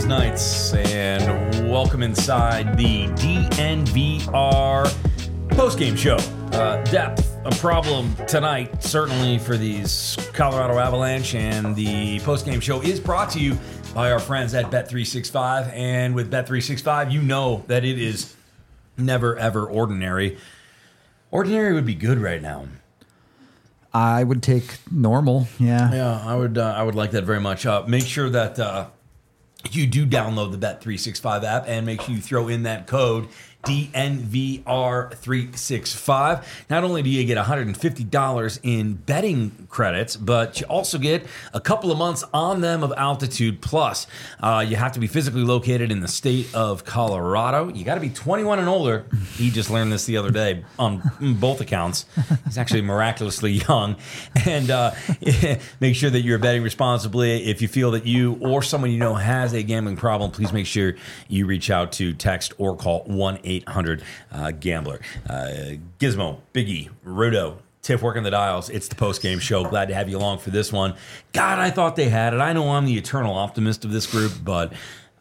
Avs Knights, and welcome inside the DNVR postgame show. Depth, a problem tonight, certainly for these Colorado Avalanche, and the postgame show is brought to you by our friends at Bet365, and with Bet365, you know that it is never, ever ordinary. Ordinary would be good right now. I would take normal, yeah. Yeah, I would like that very much. Make sure that you do download the Bet365 app and make sure you throw in that code DNVR365. Not only do you get $150 in betting credits, but you also get a couple of months on them of Altitude Plus. You have to be physically located in the state of Colorado. You got to be 21 and older. He just learned this the other day on both accounts. He's actually miraculously young. And make sure that you're betting responsibly. If you feel that you or someone you know has a gambling problem, please make sure you reach out to text or call 1-800-GAMBLER. Gizmo, Biggie, Rudo, Tiff working the dials. It's the post-game show. Glad to have you along for this one. God, I thought they had it. I know I'm the eternal optimist of this group, but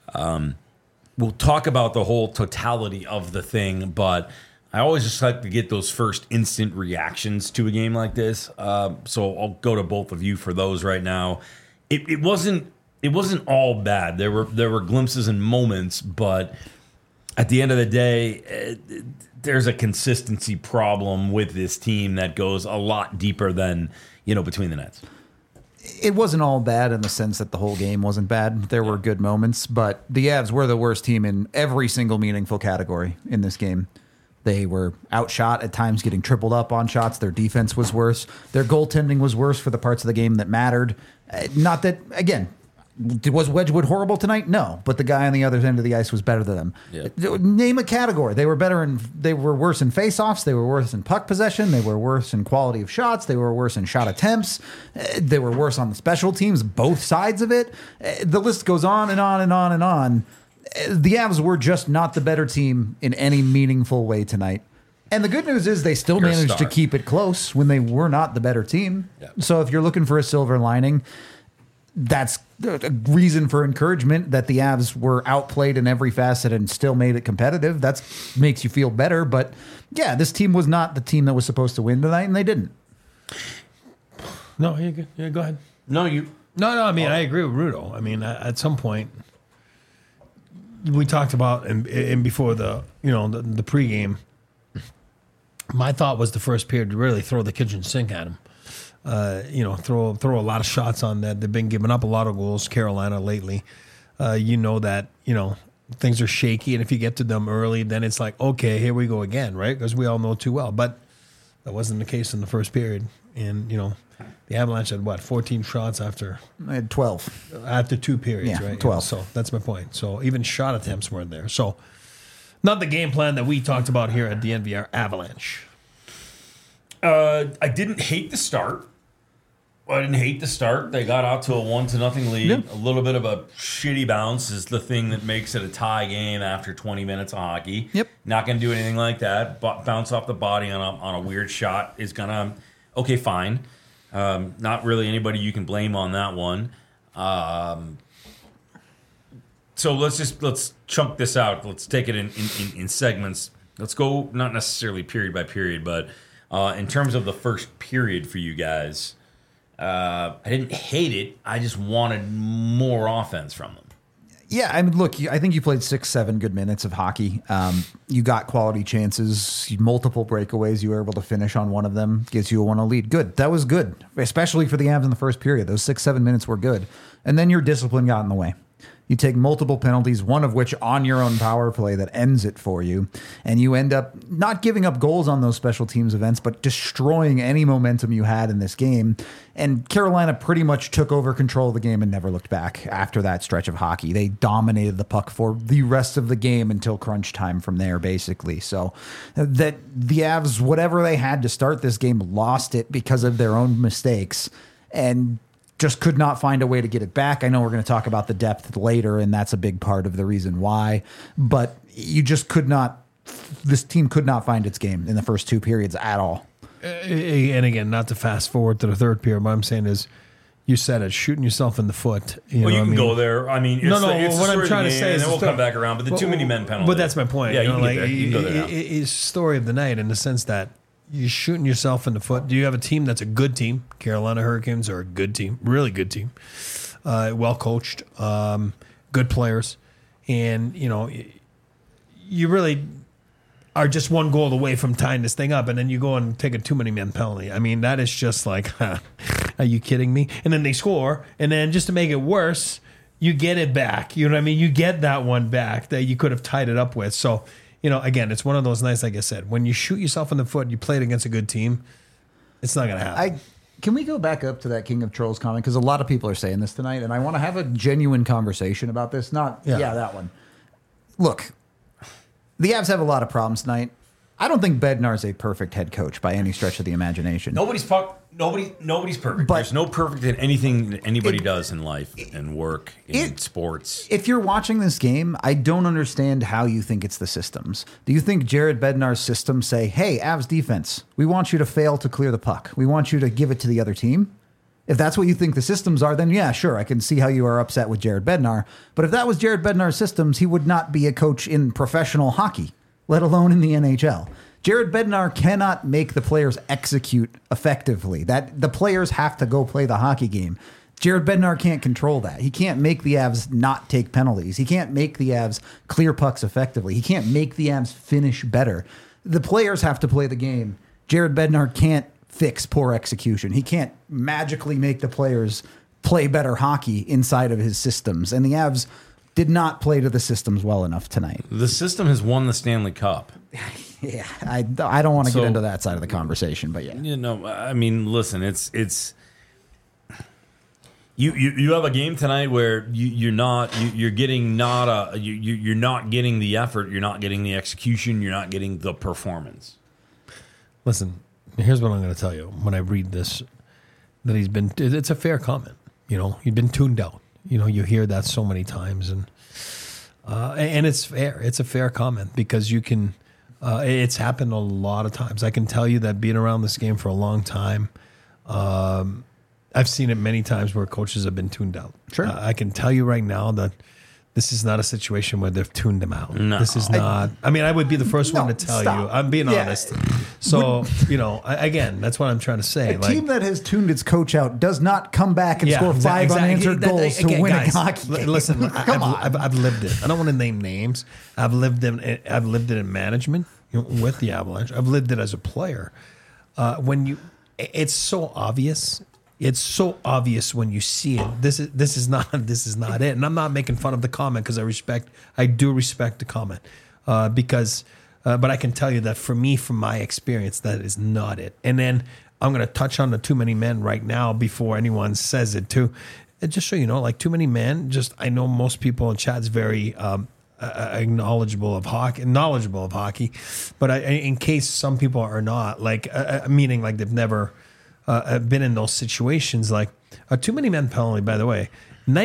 we'll talk about the whole totality of the thing, but I always just like to get those first instant reactions to a game like this. So I'll go to both of you for those right now. It wasn't all bad. There were glimpses and moments, but at the end of the day, there's a consistency problem with this team that goes a lot deeper than, between the nets. It wasn't all bad in the sense that the whole game wasn't bad. There were good moments, but the Avs were the worst team in every single meaningful category in this game. They were outshot at times, getting tripled up on shots. Their defense was worse. Their goaltending was worse for the parts of the game that mattered. Not that, again, was Wedgwood horrible tonight? No, but the guy on the other end of the ice was better than them. Yep. Name a category. They were worse in faceoffs. They were worse in puck possession. They were worse in quality of shots. They were worse in shot attempts. They were worse on the special teams, both sides of it. The list goes on and on and on and on. The Avs were just not the better team in any meaningful way tonight. And the good news is they still managed to keep it close when they were not the better team. Yep. So if you're looking for a silver lining, that's a reason for encouragement that the Avs were outplayed in every facet and still made it competitive. That makes you feel better. But yeah, this team was not the team that was supposed to win tonight, and they didn't. No, you're good. Yeah, go ahead. No. I mean, I agree with Rudo. I mean, at some point, we talked about and before the pregame. My thought was the first period to really throw the kitchen sink at him. Throw a lot of shots on that. They've been giving up a lot of goals, Carolina, lately. That things are shaky, and if you get to them early, then it's like, okay, here we go again, right? Because we all know too well. But that wasn't the case in the first period. And, the Avalanche had, 14 shots after? I had 12. After two periods, yeah, right? 12. So that's my point. So even shot attempts weren't there. So not the game plan that we talked about here at the NVR Avalanche. I didn't hate the start. They got out to a 1-0 lead. Yep. A little bit of a shitty bounce is the thing that makes it a tie game after 20 minutes of hockey. Yep. Not going to do anything like that. But bounce off the body on a weird shot is going to, okay, fine. Not really anybody you can blame on that one. So let's chunk this out. Let's take it in segments. Let's go not necessarily period by period, but in terms of the first period for you guys, I didn't hate it. I just wanted more offense from them. Yeah, I mean, look, I think you played 6-7 good minutes of hockey. You got quality chances, multiple breakaways. You were able to finish on one of them. Gives you a 1-0 lead. Good. That was good, especially for the Avs in the first period. Those 6-7 minutes were good. And then your discipline got in the way. You take multiple penalties, one of which on your own power play that ends it for you. And you end up not giving up goals on those special teams events, but destroying any momentum you had in this game. And Carolina pretty much took over control of the game and never looked back after that stretch of hockey. They dominated the puck for the rest of the game until crunch time from there, basically. So that the Avs, whatever they had to start this game, lost it because of their own mistakes. And just could not find a way to get it back. I know we're going to talk about the depth later, and that's a big part of the reason why. But you just could not, this team could not find its game in the first two periods at all. And again, not to fast forward to the third period, what I'm saying is you said it, shooting yourself in the foot. You can go there. I mean, what I'm trying to say is, and then we'll come back around. But the too many men penalty. But that's my point. Yeah, you can go there. It's story of the night in the sense that you're shooting yourself in the foot. Do you have a team that's a good team? Carolina Hurricanes are a good team, really good team, well coached, good players, and you really are just one goal away from tying this thing up, and then you go and take a too many men penalty. I mean, that is just like, are you kidding me? And then they score, and then just to make it worse, you get it back. You know what I mean? You get that one back that you could have tied it up with. So, again, it's one of those nights, like I said, when you shoot yourself in the foot, you play it against a good team, it's not going to happen. Can we go back up to that King of Trolls comment? Because a lot of people are saying this tonight, and I want to have a genuine conversation about this. That one. Look, the Avs have a lot of problems tonight. I don't think Bednar is a perfect head coach by any stretch of the imagination. Nobody's perfect. But there's no perfect in anything that anybody does in life and work in sports. If you're watching this game, I don't understand how you think it's the systems. Do you think Jared Bednar's systems say, hey, Avs defense, we want you to fail to clear the puck. We want you to give it to the other team? If that's what you think the systems are, then yeah, sure, I can see how you are upset with Jared Bednar. But if that was Jared Bednar's systems, he would not be a coach in professional hockey, let alone in the NHL. Jared Bednar cannot make the players execute effectively. That the players have to go play the hockey game. Jared Bednar can't control that. He can't make the Avs not take penalties. He can't make the Avs clear pucks effectively. He can't make the Avs finish better. The players have to play the game. Jared Bednar can't fix poor execution. He can't magically make the players play better hockey inside of his systems. And the Avs did not play to the systems well enough tonight. The system has won the Stanley Cup. Yeah, I don't want to get into that side of the conversation, but yeah. I mean, listen, it's you have a game tonight where you're not getting the effort, you're not getting the execution, you're not getting the performance. Listen, here's what I'm going to tell you. When I read this, that it's a fair comment. He's been tuned out. You hear that so many times, and it's fair. It's a fair comment because you can. It's happened a lot of times. I can tell you that being around this game for a long time, I've seen it many times where coaches have been tuned out. Sure, I can tell you right now that this is not a situation where they've tuned him out. No. This is not. I mean, I would be the first one to tell you. I'm being honest. So, again, that's what I'm trying to say. A team that has tuned its coach out does not come back and score 5 unanswered goals to win a hockey game. Listen, Come on. I've lived it. I don't want to name names. I've lived it in management with the Avalanche. I've lived it as a player. It's so obvious. It's so obvious when you see it. This is not it. And I'm not making fun of the comment because I do respect the comment because but I can tell you that for me, from my experience, that is not it. And then I'm going to touch on the too many men right now before anyone says it too. And just so you know, like too many men. I know most people in chat's very knowledgeable of hockey, but in case some people are not, meaning like they've never. Been in those situations, like a too many men penalty, by the way,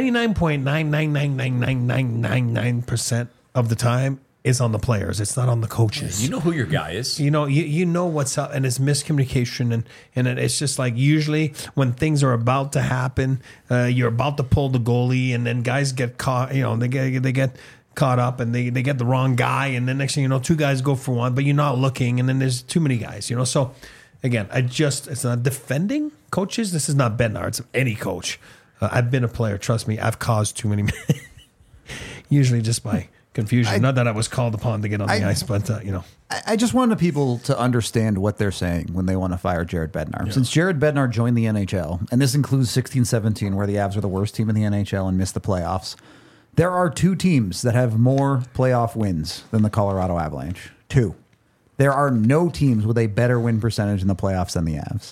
99.9999999% of the time is on the players. It's not on the coaches. You know who your guy is. You know what's up, and it's miscommunication, and it's just like usually when things are about to happen, you're about to pull the goalie, and then guys get caught. They get caught up, and they get the wrong guy, and then next thing you know, 2 guys go for one, but you're not looking, and then there's too many guys. So. Again, it's not defending coaches. This is not Bednar. It's any coach. I've been a player. Trust me, I've caused too many, usually just by confusion. Not that I was called upon to get on the ice, but, I just wanted people to understand what they're saying when they want to fire Jared Bednar. Yeah. Since Jared Bednar joined the NHL, and this includes 16-17, where the Avs are the worst team in the NHL and missed the playoffs, there are 2 teams that have more playoff wins than the Colorado Avalanche. 2. There are no teams with a better win percentage in the playoffs than the Avs.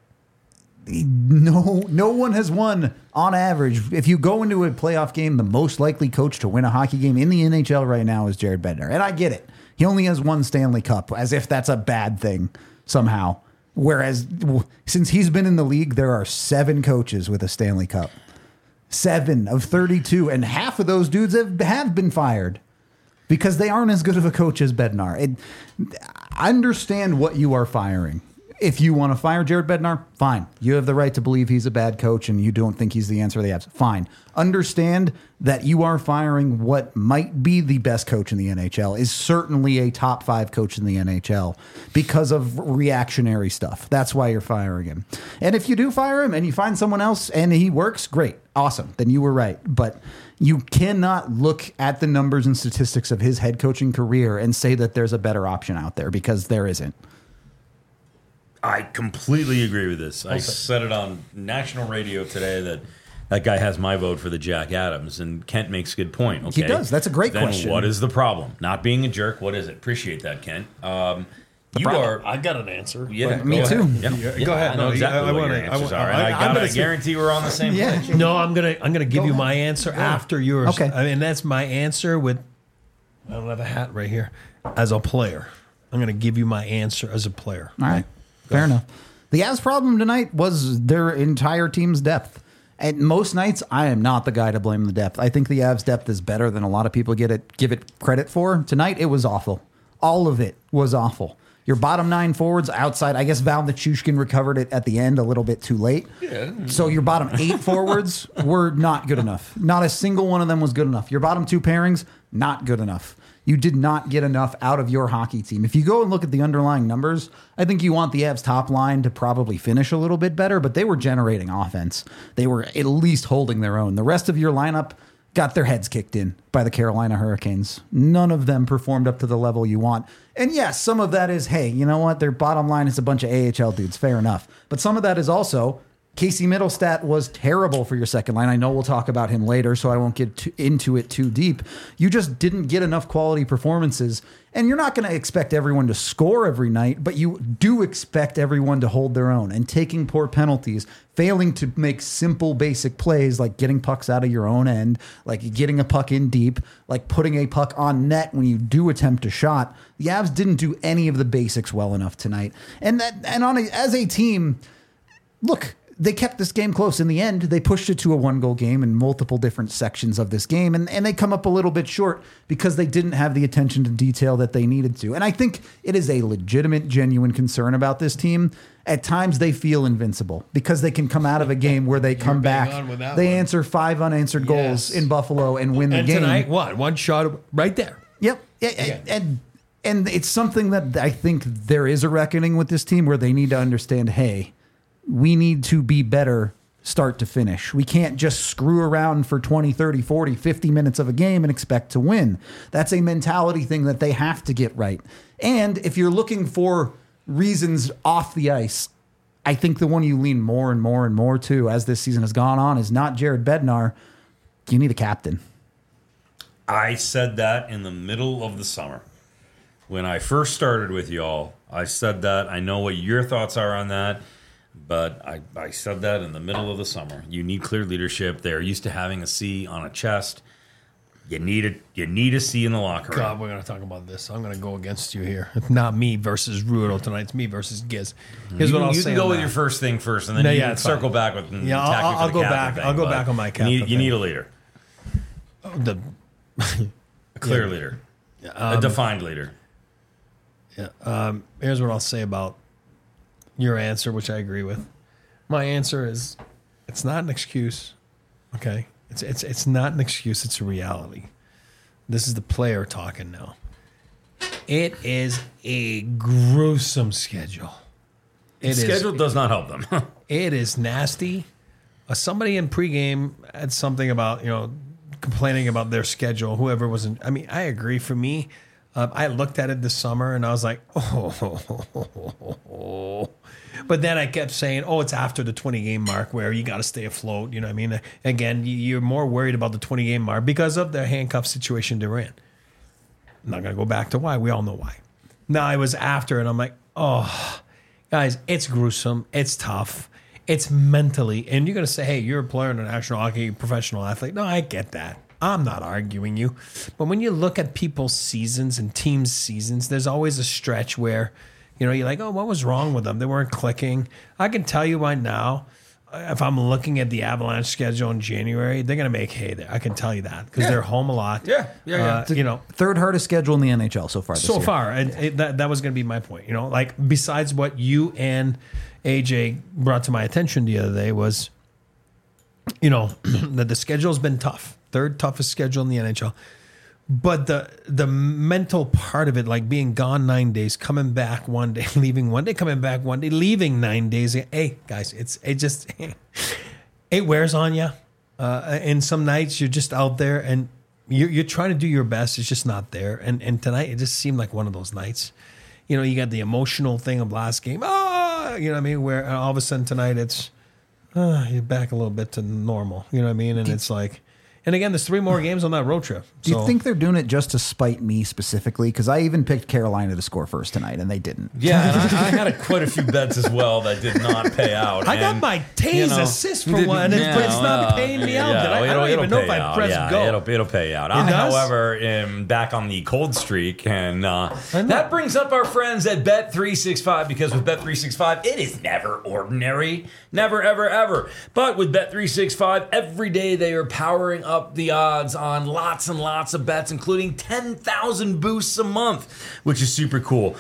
No one has won on average. If you go into a playoff game, the most likely coach to win a hockey game in the NHL right now is Jared Bednar. And I get it. He only has 1 Stanley Cup, as if that's a bad thing somehow. Whereas since he's been in the league, there are 7 coaches with a Stanley Cup. 7 of 32. And half of those dudes have been fired. Because they aren't as good of a coach as Bednar. I understand what you are firing. If you want to fire Jared Bednar, fine. You have the right to believe he's a bad coach and you don't think he's the answer to the Avs. Fine. Understand that you are firing what might be the best coach in the NHL, is certainly a top 5 coach in the NHL because of reactionary stuff. That's why you're firing him. And if you do fire him and you find someone else and he works, great. Awesome. Then you were right. But you cannot look at the numbers and statistics of his head coaching career and say that there's a better option out there, because there isn't. I completely agree with this. I said it on national radio today that guy has my vote for the Jack Adams, and Kent makes a good point. Okay? He does. That's a great question. What is the problem? Not being a jerk. What is it? Appreciate that, Kent. I got an answer. Yeah, Me too. Go ahead. I know exactly what your answers are. And I guarantee we're on the same page. No, I'm gonna give you my answer after yours. Okay. I mean, that's my answer with. I don't have a hat right here. As a player, I'm gonna give you my answer as a player. All right. Fair enough. The Avs' problem tonight was their entire team's depth. And most nights, I am not the guy to blame the depth. I think the Avs' depth is better than a lot of people give it credit for. Tonight, it was awful. All of it was awful. Your bottom 9 forwards outside, I guess Val Nichushkin recovered it at the end a little bit too late. Yeah. So your bottom 8 forwards were not good enough. Not a single one of them was good enough. Your bottom 2 pairings, not good enough. You did not get enough out of your hockey team. If you go and look at the underlying numbers, I think you want the Avs top line to probably finish a little bit better, but they were generating offense. They were at least holding their own. The rest of your lineup got their heads kicked in by the Carolina Hurricanes. None of them performed up to the level you want. And yes, some of that is, hey, you know what? Their bottom line is a bunch of AHL dudes. Fair enough. But some of that is also Casey Middlestat was terrible for your second line. I know we'll talk about him later, so I won't get into it too deep. You just didn't get enough quality performances, and you're not going to expect everyone to score every night, but you do expect everyone to hold their own, and taking poor penalties, failing to make simple, basic plays like getting pucks out of your own end, like getting a puck in deep, like putting a puck on net when you do attempt a shot. The Avs didn't do any of the basics well enough tonight. As a team, look, they kept this game close. In the end, they pushed it to a 1-goal game in multiple different sections of this game, and they come up a little bit short because they didn't have the attention to detail that they needed to. And I think it is a legitimate, genuine concern about this team. At times, they feel invincible because they can come out of a game where they come back. They answer 5 unanswered goals in Buffalo and win the game. And tonight, what? One shot right there. Yep. And it's something that I think there is a reckoning with this team where they need to understand, hey, we need to be better start to finish. We can't just screw around for 20, 30, 40, 50 minutes of a game and expect to win. That's a mentality thing that they have to get right. And if you're looking for reasons off the ice, I think the one you lean more and more and more to as this season has gone on is not Jared Bednar. You need a captain. I said that in the middle of the summer. When I first started with y'all, I said that. I know what your thoughts are on that. But I said that in the middle of the summer. You need clear leadership. They're used to having a C on a chest. You need a C in the locker room. God, we're going to talk about this. I'm going to go against you here. It's not me versus Rudo tonight. It's me versus Giz. Here's what I'll say. You can go with your first thing first, and then you can circle back with. I'll go back. I'll go back on my captain. You need a leader. A clear leader. A defined leader. Yeah. Here's what I'll say about your answer, which I agree with. My answer is, it's not an excuse. Okay, it's not an excuse. It's a reality. This is the player talking now. It is a gruesome schedule. Schedule does not help them. It is nasty. Somebody in pregame had something about complaining about their schedule. Whoever was in. I mean, I agree. For me, I looked at it this summer and I was like, oh. But then I kept saying, it's after the 20-game mark where you got to stay afloat. You know what I mean? Again, you're more worried about the 20-game mark because of the handcuff situation they're in. I'm not going to go back to why. We all know why. Now, it was after, and I'm like, guys, it's gruesome. It's tough. It's mentally. And you're going to say, hey, you're a player in a national hockey professional athlete. No, I get that. I'm not arguing you. But when you look at people's seasons and teams' seasons, there's always a stretch where, you're like, what was wrong with them? They weren't clicking. I can tell you right now, if I'm looking at the Avalanche schedule in January, they're going to make hay there. I can tell you that because they're home a lot. Yeah. Third hardest schedule in the NHL so far this year. So far, and that was going to be my point. Like besides what you and AJ brought to my attention the other day was, that the schedule's been tough. Third toughest schedule in the NHL. But the mental part of it, like being gone 9 days, coming back one day, leaving one day, coming back one day, leaving 9 days. Hey guys, it wears on you. And some nights you're just out there and you're trying to do your best. It's just not there. And tonight it just seemed like one of those nights. You got the emotional thing of last game. You know what I mean? Where all of a sudden tonight it's you're back a little bit to normal. You know what I mean? And it's like. And again, there's 3 more games on that road trip. Do you think they're doing it just to spite me specifically? Because I even picked Carolina to score first tonight, and they didn't. Yeah, and I had quite a few bets as well that did not pay out. I got my Taze assist for one, but it's not paying me out. I don't even know if I pressed go. It'll pay out. It does? However, am back on the cold streak, and that brings up our friends at Bet365, because with Bet365, it is never ordinary. Never, ever, ever. But with Bet365, every day they are powering up the odds on lots and lots of bets, including 10,000 boosts a month, which is super cool.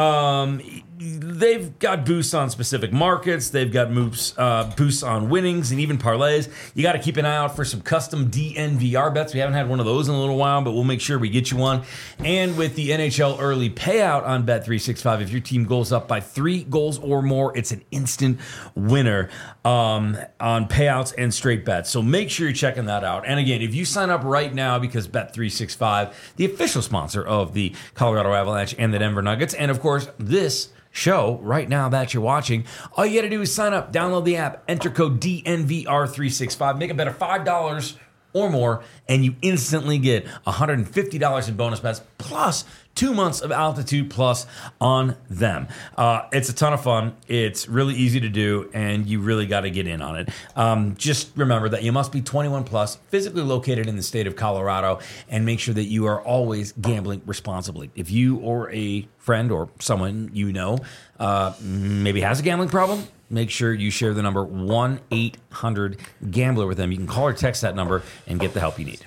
They've got boosts on specific markets. They've got boosts on winnings and even parlays. You got to keep an eye out for some custom DNVR bets. We haven't had one of those in a little while, but we'll make sure we get you one. And with the NHL early payout on Bet365, if your team goes up by 3 goals or more, it's an instant winner on payouts and straight bets. So make sure you're checking that out. And again, if you sign up right now, because Bet365, the official sponsor of the Colorado Avalanche and the Denver Nuggets, and of course, this show right now that you're watching, all you got to do is sign up, download the app, enter code DNVR365, make a bet of $5 or more, and you instantly get $150 in bonus bets plus 2 months of Altitude Plus on them. It's a ton of fun. It's really easy to do, and you really got to get in on it. Just remember that you must be 21 plus, physically located in the state of Colorado, and make sure that you are always gambling responsibly. If you or a friend or someone you know maybe has a gambling problem, make sure you share the number 1-800-GAMBLER with them. You can call or text that number and get the help you need.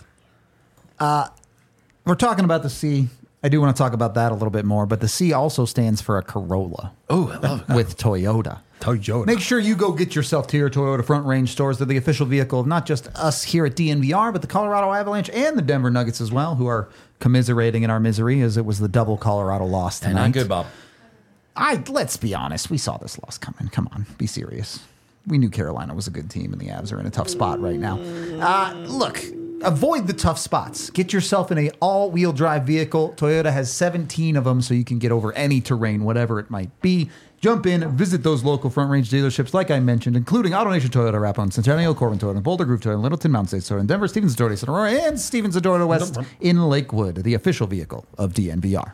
We're talking about the C. I do want to talk about that a little bit more, but the C also stands for a Corolla. Oh, I love it. With Toyota. Toyota. Make sure you go get yourself to your Toyota Front Range stores. They're the official vehicle of not just us here at DNVR, but the Colorado Avalanche and the Denver Nuggets as well, who are commiserating in our misery as it was the double Colorado loss tonight. Not good, Bob. Let's be honest. We saw this loss coming. Come on, be serious. We knew Carolina was a good team, and the Avs are in a tough spot right now. Look, avoid the tough spots. Get yourself in an all-wheel drive vehicle. Toyota has 17 of them, so you can get over any terrain, whatever it might be. Jump in, visit those local Front Range dealerships, like I mentioned, including AutoNation Toyota, Rapon, Centennial, Corbin Toyota, Boulder Grove Toyota, Littleton Mountain State Toyota, Denver, Stevens Toyota, Sonora, and Stevens Toyota West in Lakewood, the official vehicle of DNVR.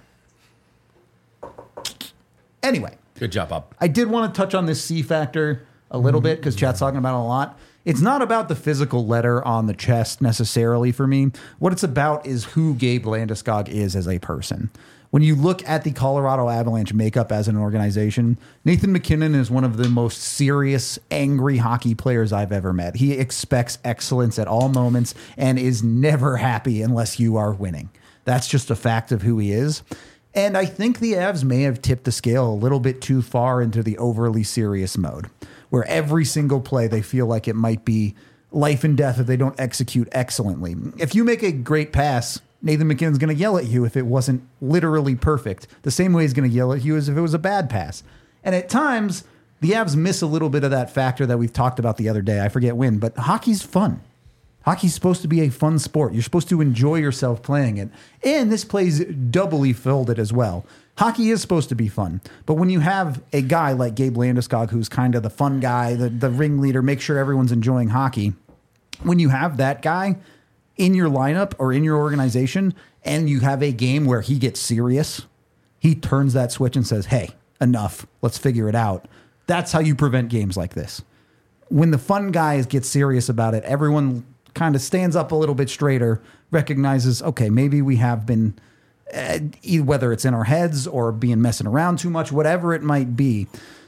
Anyway. Good job, Bob. I did want to touch on this C factor a little bit because chat's talking about it a lot. It's not about the physical letter on the chest necessarily for me. What it's about is who Gabe Landeskog is as a person. When you look at the Colorado Avalanche makeup as an organization, Nathan MacKinnon is one of the most serious, angry hockey players I've ever met. He expects excellence at all moments and is never happy unless you are winning. That's just a fact of who he is. And I think the Avs may have tipped the scale a little bit too far into the overly serious mode, where every single play they feel like it might be life and death if they don't execute excellently. If you make a great pass, Nathan MacKinnon's going to yell at you if it wasn't literally perfect, the same way he's going to yell at you as if it was a bad pass. And at times, the Avs miss a little bit of that factor that we've talked about the other day. I forget when, but hockey's fun. Hockey's supposed to be a fun sport. You're supposed to enjoy yourself playing it. And this plays doubly folded as well. Hockey is supposed to be fun. But when you have a guy like Gabe Landeskog, who's kind of the fun guy, the ringleader, make sure everyone's enjoying hockey, when you have that guy in your lineup or in your organization and you have a game where he gets serious, he turns that switch and says, hey, enough, let's figure it out. That's how you prevent games like this. When the fun guys get serious about it, everyone kind of stands up a little bit straighter, recognizes, okay, maybe we have been, whether it's in our heads or being messing around too much, whatever it might be.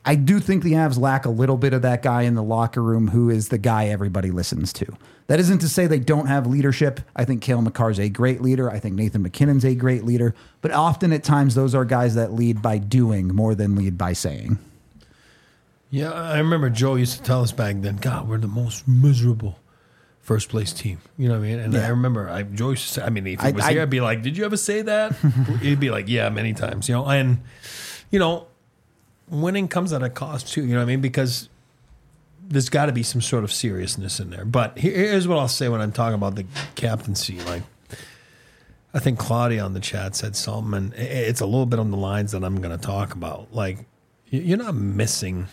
I do think the Avs lack a little bit of that guy in the locker room who is the guy everybody listens to. That isn't to say they don't have leadership. I think Cale Makar's a great leader. I think Nathan McKinnon's a great leader. But often at times those are guys that lead by doing more than lead by saying. Yeah, I remember Joe used to tell us back then, God, we're the most miserable first place team. You know what I mean? And I remember Joe used to say, I mean, if he was here, I'd be like, did you ever say that? He'd be like, yeah, many times, you know. And, you know, winning comes at a cost too, you know what I mean? Because there's got to be some sort of seriousness in there. But here's what I'll say when I'm talking about the captaincy. Like, I think Claudia on the chat said something, and it's a little bit on the lines that I'm going to talk about. Like, you're not missing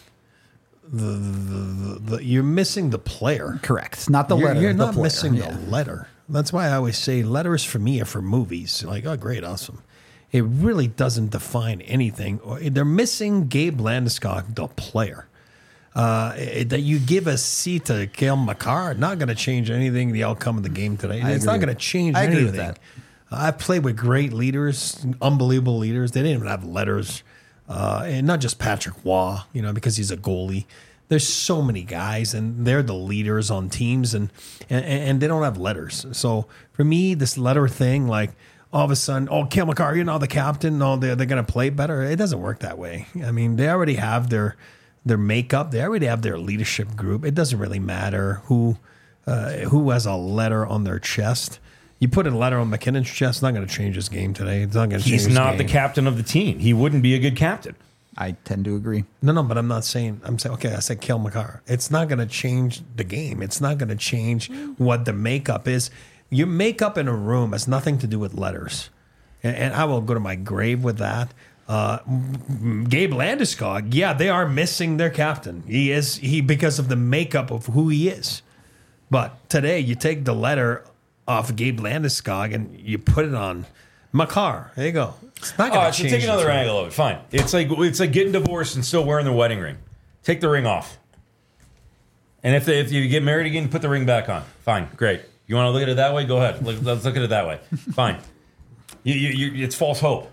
you're missing the player. Correct. Not the letter. You're the not player. missing the letter. That's why I always say letters for me are for movies. Like, oh, great, awesome. It really doesn't define anything. They're missing Gabe Landeskog, the player. That you give a seat to Cale Makar, not going to change anything, the outcome of the game today. It's not going to change anything. agree with that. I've played with great leaders, unbelievable leaders. They didn't even have letters. And not just Patrick Waugh, you know, because he's a goalie. There's so many guys, and they're the leaders on teams, and they don't have letters. So for me, this letter thing, like all of a sudden, oh, Cale Makar, you're now the captain. No, they're going to play better. It doesn't work that way. I mean, they already have their makeup. They already have their leadership group. It doesn't really matter who has a letter on their chest. You put a letter on McKinnon's chest, it's not going to change his game today. It's not going to change his game. He's not the captain of the team. He wouldn't be a good captain. I tend to agree. No, but I'm saying, okay, I said Cale Makar. It's not going to change the game. It's not going to change what the makeup is. Your makeup in a room has nothing to do with letters. And I will go to my grave with that. Gabe Landeskog, yeah, they are missing their captain. He because of the makeup of who he is. But today, you take the letter off Gabe Landeskog and you put it on Makar. There you go. It's not going to change. So take another angle of it. Fine. It's like getting divorced and still wearing the wedding ring. Take the ring off. And if you get married again, put the ring back on. Fine. Great. You want to look at it that way? Go ahead. Let's look at it that way. Fine. It's false hope.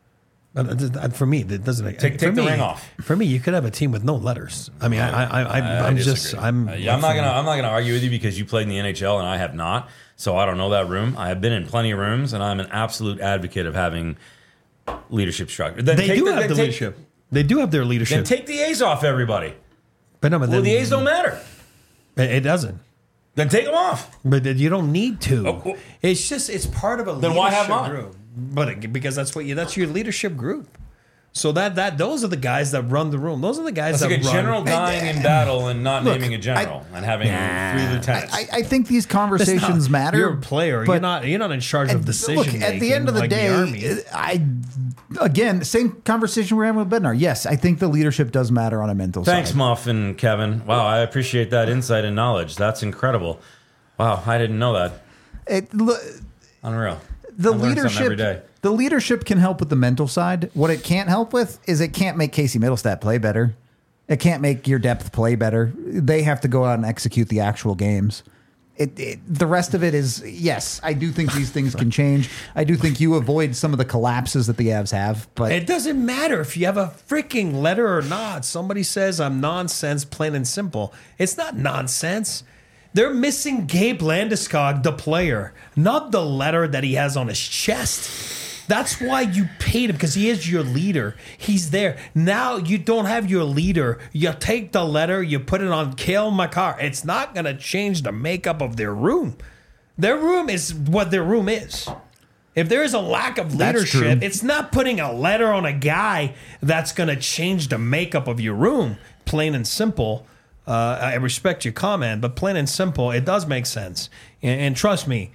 For me, that doesn't make take the ring off. For me, you could have a team with no letters. I mean, I'm not gonna argue with you because you played in the NHL and I have not. So I don't know that room. I have been in plenty of rooms, and I'm an absolute advocate of having leadership structure. They do have their leadership. Then take the A's off everybody. But the A's don't matter. It doesn't. Then take them off. But you don't need to. Oh. It's part of a then leadership why have mine? group. But because that's your leadership group. So those are the guys that run the room. Those are the guys that's that like a general dying in battle and not naming a general and having 3 lieutenants. I think these conversations matter. You're a player. You're not in charge of decision making. At the end of the day, again, same conversation we're having with Bednar. Yes, I think the leadership does matter on a mental side. Thanks, Muff and Kevin. Wow, I appreciate that insight and knowledge. That's incredible. Wow, I didn't know that. Unreal. The leadership can help with the mental side. What it can't help with is it can't make Casey Middlestat play better. It can't make your depth play better. They have to go out and execute the actual games. The rest of it is, yes, I do think these things can change. I do think you avoid some of the collapses that the Avs have. But it doesn't matter if you have a freaking letter or not. Somebody says I'm nonsense, plain and simple. It's not nonsense. They're missing Gabe Landeskog, the player, not the letter that he has on his chest. That's why you paid him, because he is your leader. He's there. Now you don't have your leader. You take the letter, you put it on Cale Makar. It's not going to change the makeup of their room. Their room is what their room is. If there is a lack of leadership, it's not putting a letter on a guy that's going to change the makeup of your room, plain and simple. I respect your comment, but plain and simple, it does make sense. And trust me,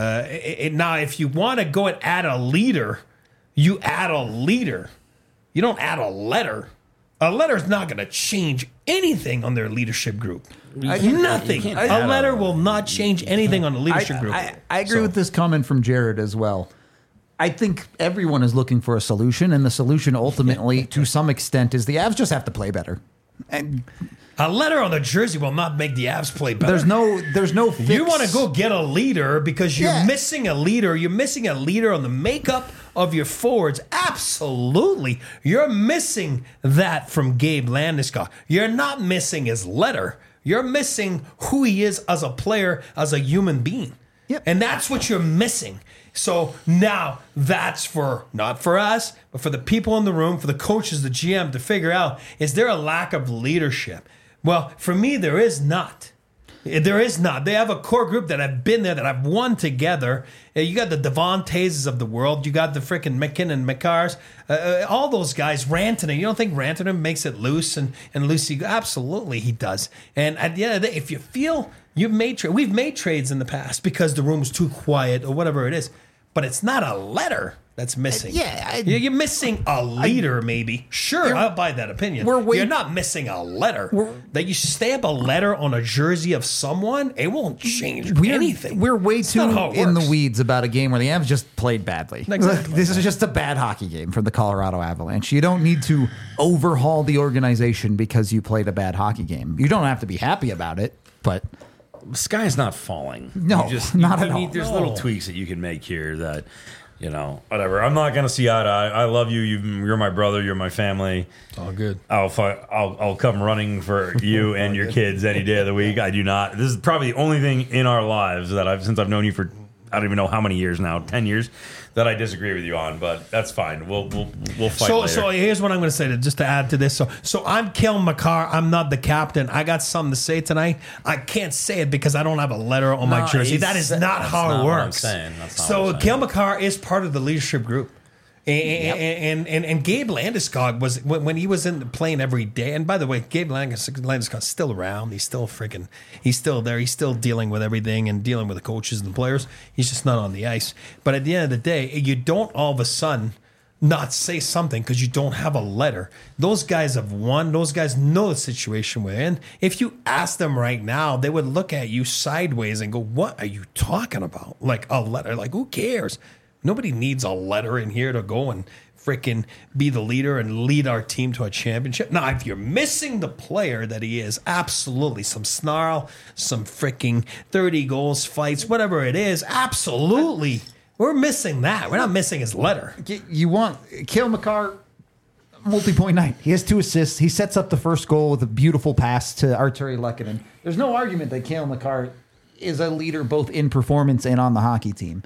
now if you want to go and add a leader, you add a leader. You don't add a letter. A letter is not going to change anything on their leadership group. Nothing. A letter will not change anything on the leadership group. I agree with this comment from Jared as well. I think everyone is looking for a solution, and the solution ultimately, to some extent, is the Avs just have to play better. And A letter on the jersey will not make the Avs play better. there's no fix. You want to go get a leader because you're missing a leader. You're missing a leader on the makeup of your forwards. Absolutely. You're missing that from Gabe Landeskog. You're not missing his letter. You're missing who he is as a player, as a human being. Yep. And that's what you're missing. So now that's for, not for us, but for the people in the room, for the coaches, the GM to figure out, is there a lack of leadership? Well, for me, there is not. There is not. They have a core group that have been there, that have won together. You got the Devontays of the world. You got the freaking McKinnon, McCarrs, all those guys. Rantanen. You don't think Rantanen makes it loose and loosey? Absolutely, he does. And at the end of the day, if you feel we've made trades in the past because the room was too quiet or whatever it is, but it's not a letter that's missing. You're missing a leader, maybe. Sure, I'll buy that opinion. You're not missing a letter. That you stamp a letter on a jersey of someone, it won't change anything. We're way It's too not how it in the works. weeds about a game where the Avs just played badly. Exactly. This is just a bad hockey game for the Colorado Avalanche. You don't need to overhaul the organization because you played a bad hockey game. You don't have to be happy about it, but The sky's not falling. No, not at all. There's little tweaks that you can make here that, whatever. I'm not gonna see eye to eye. I love you. You're my brother. You're my family. All good. I'll come running for you and your kids any day of the week. I do not. This is probably the only thing in our lives that since I've known you for I don't even know how many years now, 10 years, that I disagree with you on, but that's fine. We'll fight later. So here's what I'm going to say just to add to this. So I'm Cale Makar. I'm not the captain. I got something to say tonight. I can't say it because I don't have a letter on my jersey. That is not how it works. So Cale Makar is part of the leadership group. And Gabe Landeskog was when he was playing every day. And by the way, Gabe Landeskog's still around. He's still there. He's still dealing with everything and dealing with the coaches and the players. He's just not on the ice. But at the end of the day, you don't all of a sudden not say something because you don't have a letter. Those guys have won. Those guys know the situation we're in. If you ask them right now, they would look at you sideways and go, "What are you talking about? Like a letter? Like who cares?" Nobody needs a letter in here to go and freaking be the leader and lead our team to a championship. Now, if you're missing the player that he is, absolutely. Some snarl, some freaking 30 goals fights, whatever it is, absolutely. We're missing that. We're not missing his letter. You want Cale Makar, multi-point night. He has 2 assists. He sets up the first goal with a beautiful pass to Artturi Lehkonen. There's no argument that Cale Makar is a leader both in performance and on the hockey team.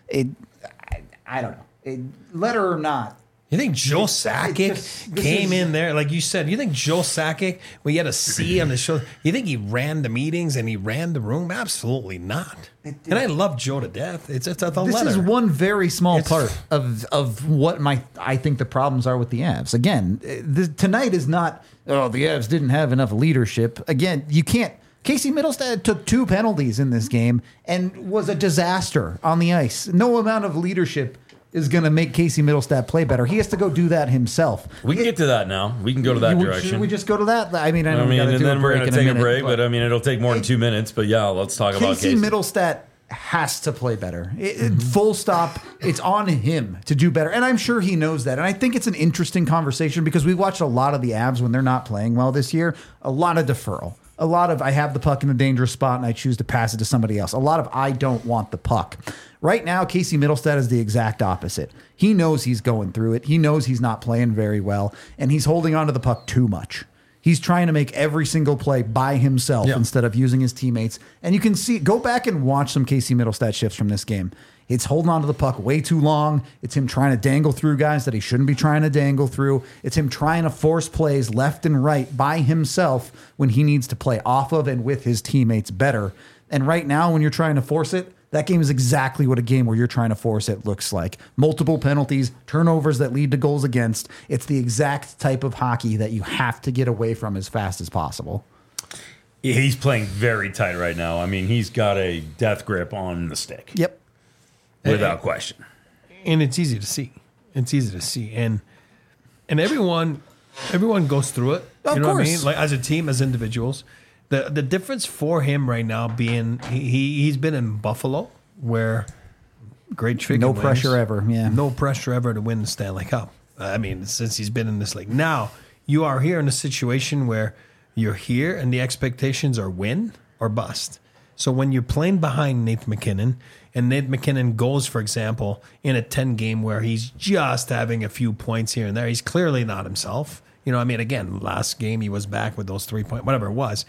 I don't know. Letter or not. You think Joe Sakic came in there, like you said, you think Joe Sakic, when he had a C on the show, you think he ran the meetings and he ran the room? Absolutely not. And I love Joe to death. It's a letter. This is one very small part of what I think the problems are with the Avs. Again, tonight is not, the Avs didn't have enough leadership. Again, you can't. Casey Middlestad took 2 penalties in this game and was a disaster on the ice. No amount of leadership is going to make Casey Middlestad play better. He has to go do that himself. We can get to that now. We can go to that direction. Should we just go to that? I mean, and then we're going to take a break, but it'll take more than 2 minutes. But yeah, let's talk about Casey. Casey Middlestad has to play better. Full stop. It's on him to do better. And I'm sure he knows that. And I think it's an interesting conversation because we watched a lot of the Avs when they're not playing well this year. A lot of deferral. A lot of I have the puck in a dangerous spot and I choose to pass it to somebody else. A lot of I don't want the puck. Right now, Casey Middlestad is the exact opposite. He knows he's going through it. He knows he's not playing very well, and he's holding onto the puck too much. He's trying to make every single play by himself instead of using his teammates. And you can see, go back and watch some Casey Middlestad shifts from this game. It's holding on to the puck way too long. It's him trying to dangle through guys that he shouldn't be trying to dangle through. It's him trying to force plays left and right by himself when he needs to play off of and with his teammates better. And right now, when you're trying to force it, that game is exactly what a game where you're trying to force it looks like. Multiple penalties, turnovers that lead to goals against. It's the exact type of hockey that you have to get away from as fast as possible. He's playing very tight right now. I mean, he's got a death grip on the stick. Yep. Without question. And it's easy to see. It's easy to see. And everyone goes through it. Of course. What I mean? Like as a team, as individuals. The difference for him right now being he's been in Buffalo where great chicken no wings, pressure ever. Yeah. No pressure ever to win the Stanley Cup. I mean, since he's been in this league. Now You are here in a situation where you're here and the expectations are win or bust. So when you're playing behind Nate McKinnon, and Nate McKinnon goes, for example, in a 10 game where he's just having a few points here and there, he's clearly not himself. Again, last game he was back with those 3 point, whatever it was.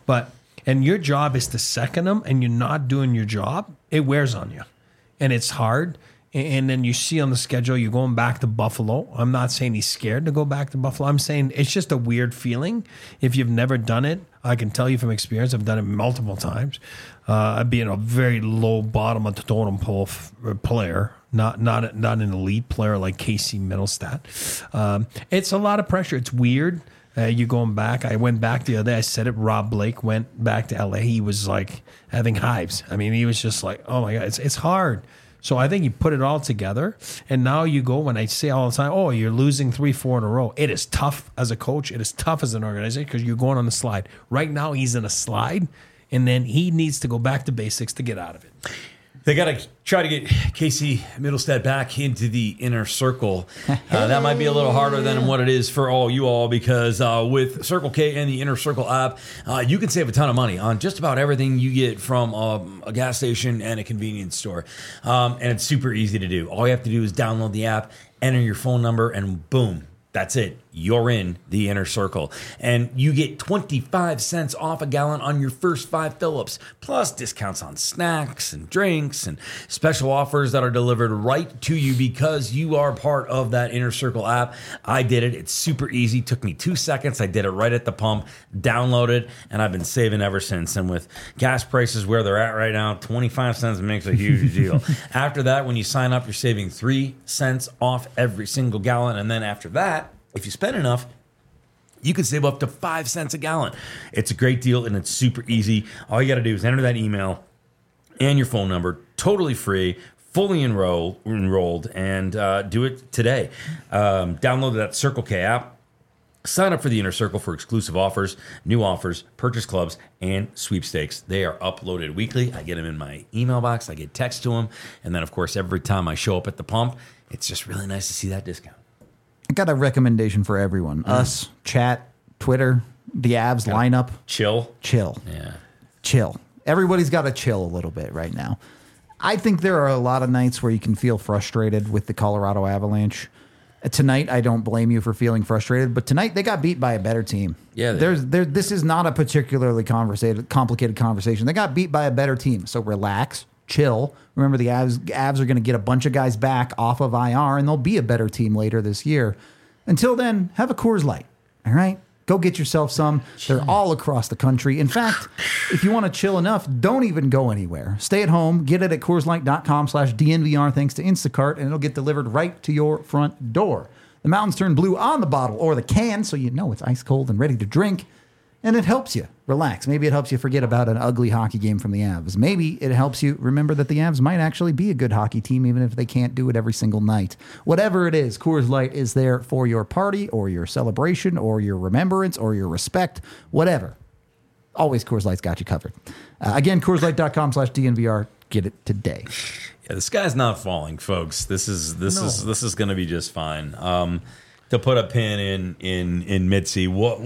And your job is to second him, and you're not doing your job, it wears on you. And it's hard. And then you see on the schedule, you're going back to Buffalo. I'm not saying he's scared to go back to Buffalo. I'm saying it's just a weird feeling. If you've never done it, I can tell you from experience, I've done it multiple times. Being a very low bottom of the totem pole player, not an elite player like Casey Middlestat. It's a lot of pressure. It's weird. You going back. I went back the other day. I said it. Rob Blake went back to LA. He was like having hives. I mean, he was just like, oh my God, it's hard. So I think you put it all together, and now you go, when I say all the time, oh, you're losing 3-4 in a row. It is tough as a coach. It is tough as an organization because you're going on the slide. Right now he's in a slide, and then he needs to go back to basics to get out of it. They got to try to get Casey Middlestat back into the inner circle. That might be a little harder than what it is for all you all, because with Circle K and the Inner Circle app, you can save a ton of money on just about everything you get from a gas station and a convenience store. And it's super easy to do. All you have to do is download the app, enter your phone number, and boom, that's it. You're in the inner circle. And you get 25 cents off a gallon on your first 5 fill-ups, plus discounts on snacks and drinks and special offers that are delivered right to you because you are part of that Inner Circle app. I did it. It's super easy. Took me 2 seconds. I did it right at the pump, downloaded, and I've been saving ever since. And with gas prices where they're at right now, 25 cents makes a huge deal. After that, when you sign up, you're saving 3 cents off every single gallon. And then after that, if you spend enough, you can save up to 5 cents a gallon. It's a great deal, and it's super easy. All you got to do is enter that email and your phone number, totally free, fully enrolled, and do it today. Download that Circle K app. Sign up for the Inner Circle for exclusive offers, new offers, purchase clubs, and sweepstakes. They are uploaded weekly. I get them in my email box. I get text to them. And then, of course, every time I show up at the pump, it's just really nice to see that discount. I got a recommendation for everyone. Us, chat, Twitter, the Avs lineup. Chill. Yeah. Chill. Everybody's got to chill a little bit right now. I think there are a lot of nights where you can feel frustrated with the Colorado Avalanche. Tonight, I don't blame you for feeling frustrated, but tonight they got beat by a better team. Yeah. This is not a particularly complicated conversation. They got beat by a better team, so relax. Chill. Remember, the Avs are going to get a bunch of guys back off of IR, and they'll be a better team later this year. Until then, have a Coors Light. All right? Go get yourself some. They're all across the country. In fact, if you want to chill enough, don't even go anywhere. Stay at home. Get it at CoorsLight.com/DNVR thanks to Instacart, and it'll get delivered right to your front door. The mountains turn blue on the bottle or the can, so you know it's ice cold and ready to drink. And it helps you relax. Maybe it helps you forget about an ugly hockey game from the Avs. Maybe it helps you remember that the Avs might actually be a good hockey team, even if they can't do it every single night. Whatever it is, Coors Light is there for your party or your celebration or your remembrance or your respect, whatever. Always Coors Light's got you covered. Again, CoorsLight.com/DNVR. Get it today. Yeah, the sky's not falling, folks. This is going to be just fine. To put a pin in Mitzi, what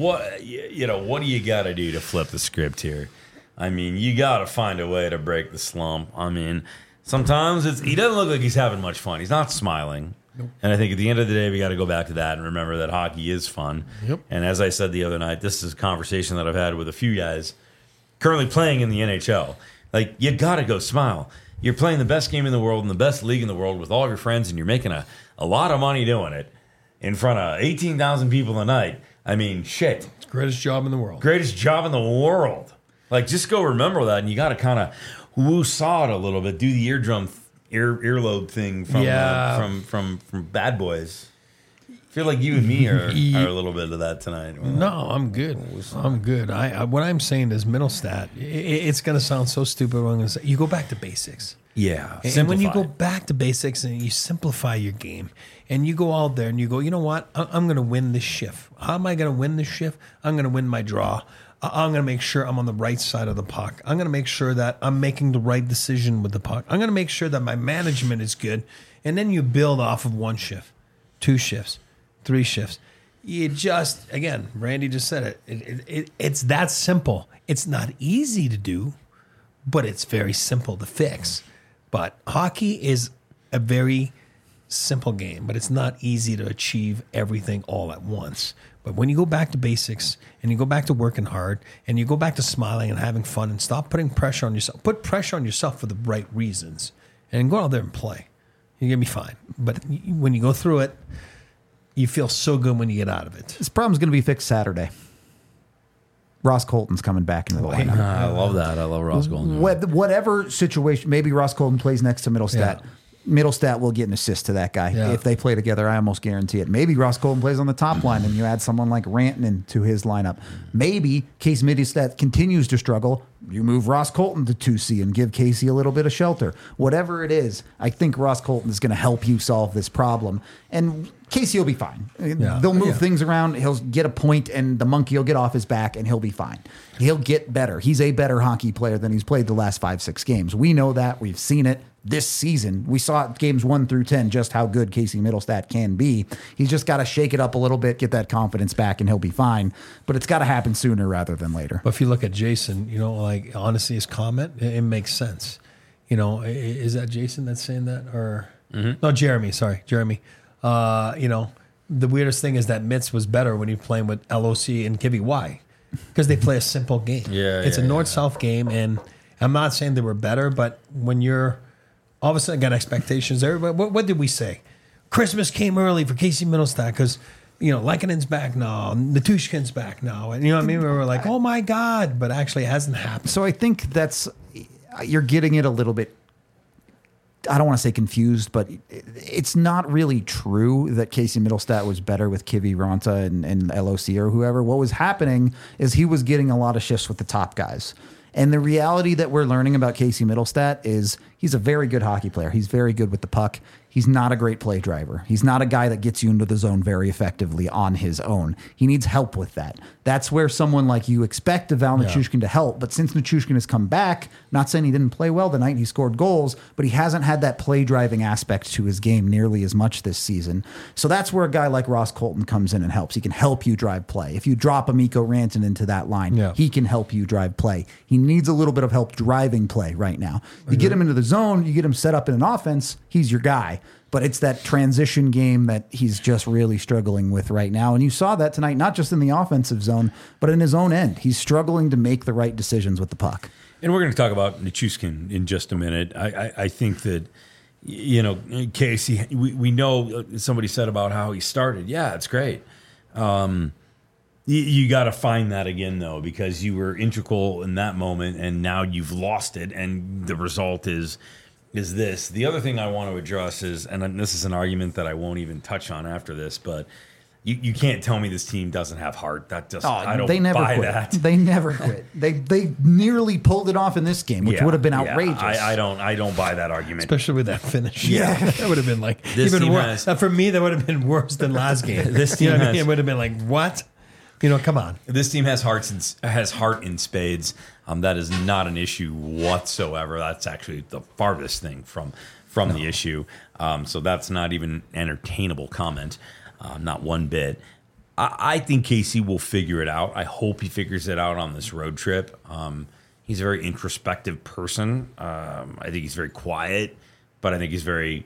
do you got to do to flip the script here? I mean, you got to find a way to break the slump. I mean, sometimes he doesn't look like he's having much fun. He's not smiling. Nope. And I think at the end of the day, we got to go back to that and remember that hockey is fun. Yep. And as I said the other night, this is a conversation that I've had with a few guys currently playing in the NHL. Like, you got to go smile. You're playing the best game in the world and the best league in the world with all of your friends, and you're making a lot of money doing it. In front of 18,000 people a night. I mean, shit. It's the greatest job in the world. Greatest job in the world. Like, just go remember that, and you got to kind of woo-saw it a little bit. Do the earlobe thing from Bad Boys. I feel like you and me are a little bit of that tonight. No, I'm good. I'm good. What I'm saying is Middlestat. It's going to sound so stupid what I'm going to say. You go back to basics. Yeah. And when you go back to basics and you simplify your game and you go out there and you go, you know what? I'm going to win this shift. How am I going to win this shift? I'm going to win my draw. I'm going to make sure I'm on the right side of the puck. I'm going to make sure that I'm making the right decision with the puck. I'm going to make sure that my management is good. And then you build off of 1 shift, 2 shifts, 3 shifts. You just, again, Randy just said it. It's that simple. It's not easy to do, but it's very simple to fix. But hockey is a very simple game, but it's not easy to achieve everything all at once. But when you go back to basics and you go back to working hard and you go back to smiling and having fun and stop putting pressure on yourself, put pressure on yourself for the right reasons and go out there and play. You're going to be fine. But when you go through it, you feel so good when you get out of it. This problem's going to be fixed Saturday. Ross Colton's coming back into the lineup. I love that. I love Ross Colton. Whatever situation, maybe Ross Colton plays next to Middlestat. Yeah. Middlestat will get an assist to that guy. Yeah. If they play together, I almost guarantee it. Maybe Ross Colton plays on the top line and you add someone like Rantanen to his lineup. Maybe Casey Middlestat continues to struggle. You move Ross Colton to 2C and give Casey a little bit of shelter. Whatever it is, I think Ross Colton is going to help you solve this problem. And Casey will be fine. They'll move things around. He'll get a point and the monkey will get off his back and he'll be fine. He'll get better. He's a better hockey player than he's played the last 5-6 games. We know that. We've seen it this season. We saw it games 1 through 10, just how good Casey Middlestat can be. He's just got to shake it up a little bit, get that confidence back, and he'll be fine. But it's got to happen sooner rather than later. But if you look at Jason, like honestly, his comment, it makes sense. Is that Jason that's saying that? Or no, Jeremy, sorry. Jeremy. The weirdest thing is that Mitz was better when he was playing with LOC and Kivy. Why? Because they play a simple game. It's a north-south game, and I'm not saying they were better, but when you're all of a sudden got expectations, everybody, what did we say? Christmas came early for Casey Middlestat because, Lekkinen back now, Natushkin's back now. And you know what I mean? We were like, oh my God, but actually it hasn't happened. So I think you're getting it a little bit, I don't want to say confused, but it's not really true that Casey Middlestat was better with Kivy, Ronta, and LOC or whoever. What was happening is he was getting a lot of shifts with the top guys. And the reality that we're learning about Casey Middlestat is he's a very good hockey player. He's very good with the puck. He's not a great play driver. He's not a guy that gets you into the zone very effectively on his own. He needs help with that. That's where someone like you expect Val Nichushkin to help. But since Nichushkin has come back, not saying he didn't play well tonight, he scored goals, but he hasn't had that play driving aspect to his game nearly as much this season. So that's where a guy like Ross Colton comes in and helps. He can help you drive play. If you drop a Mikko Rantanen into that line, he can help you drive play. He needs a little bit of help driving play right now. You get him into the zone, you get him set up in an offense, he's your guy. But it's that transition game that he's just really struggling with right now. And you saw that tonight, not just in the offensive zone, but in his own end. He's struggling to make the right decisions with the puck. And we're going to talk about Nichushkin in just a minute. I think that, Casey, we know somebody said about how he started. Yeah, it's great. You got to find that again, though, because you were integral in that moment, and now you've lost it, and the result is this. The other thing I want to address is, and this is an argument that I won't even touch on after this, but you can't tell me this team doesn't have heart. That just I don't buy that. They never quit. They nearly pulled it off in this game, which would have been outrageous. I don't buy that argument, especially with that finish. Yeah, that would have been like this even worse. For me, that would have been worse than last game. This team it would have been like what? Come on. This team has heart in spades. That is not an issue whatsoever. That's actually the farthest thing from the issue. So that's not even an entertainable comment, not one bit. I think Casey will figure it out. I hope he figures it out on this road trip. He's a very introspective person. I think he's very quiet, but I think he's very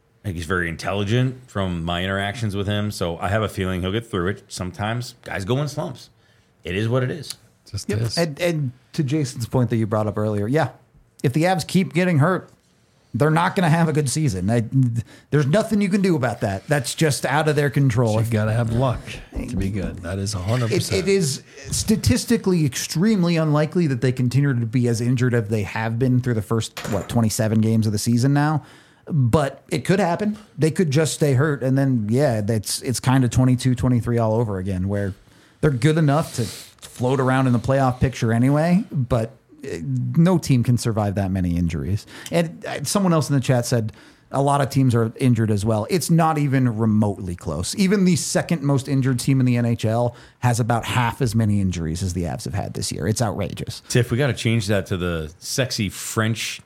intelligent from my interactions with him. So I have a feeling he'll get through it. Sometimes guys go in slumps. It is what it is. Just is. And to Jason's point that you brought up earlier, if the Avs keep getting hurt, they're not going to have a good season. There's nothing you can do about that. That's just out of their control. You've got to have luck to be good. That is 100%. It is statistically extremely unlikely that they continue to be as injured as they have been through the first, 27 games of the season now. But it could happen. They could just stay hurt. And then, it's kind of 22-23 all over again, where they're good enough to float around in the playoff picture anyway, but no team can survive that many injuries. And someone else in the chat said a lot of teams are injured as well. It's not even remotely close. Even the second most injured team in the NHL has about half as many injuries as the Avs have had this year. It's outrageous. Tiff, we got to change that to the sexy French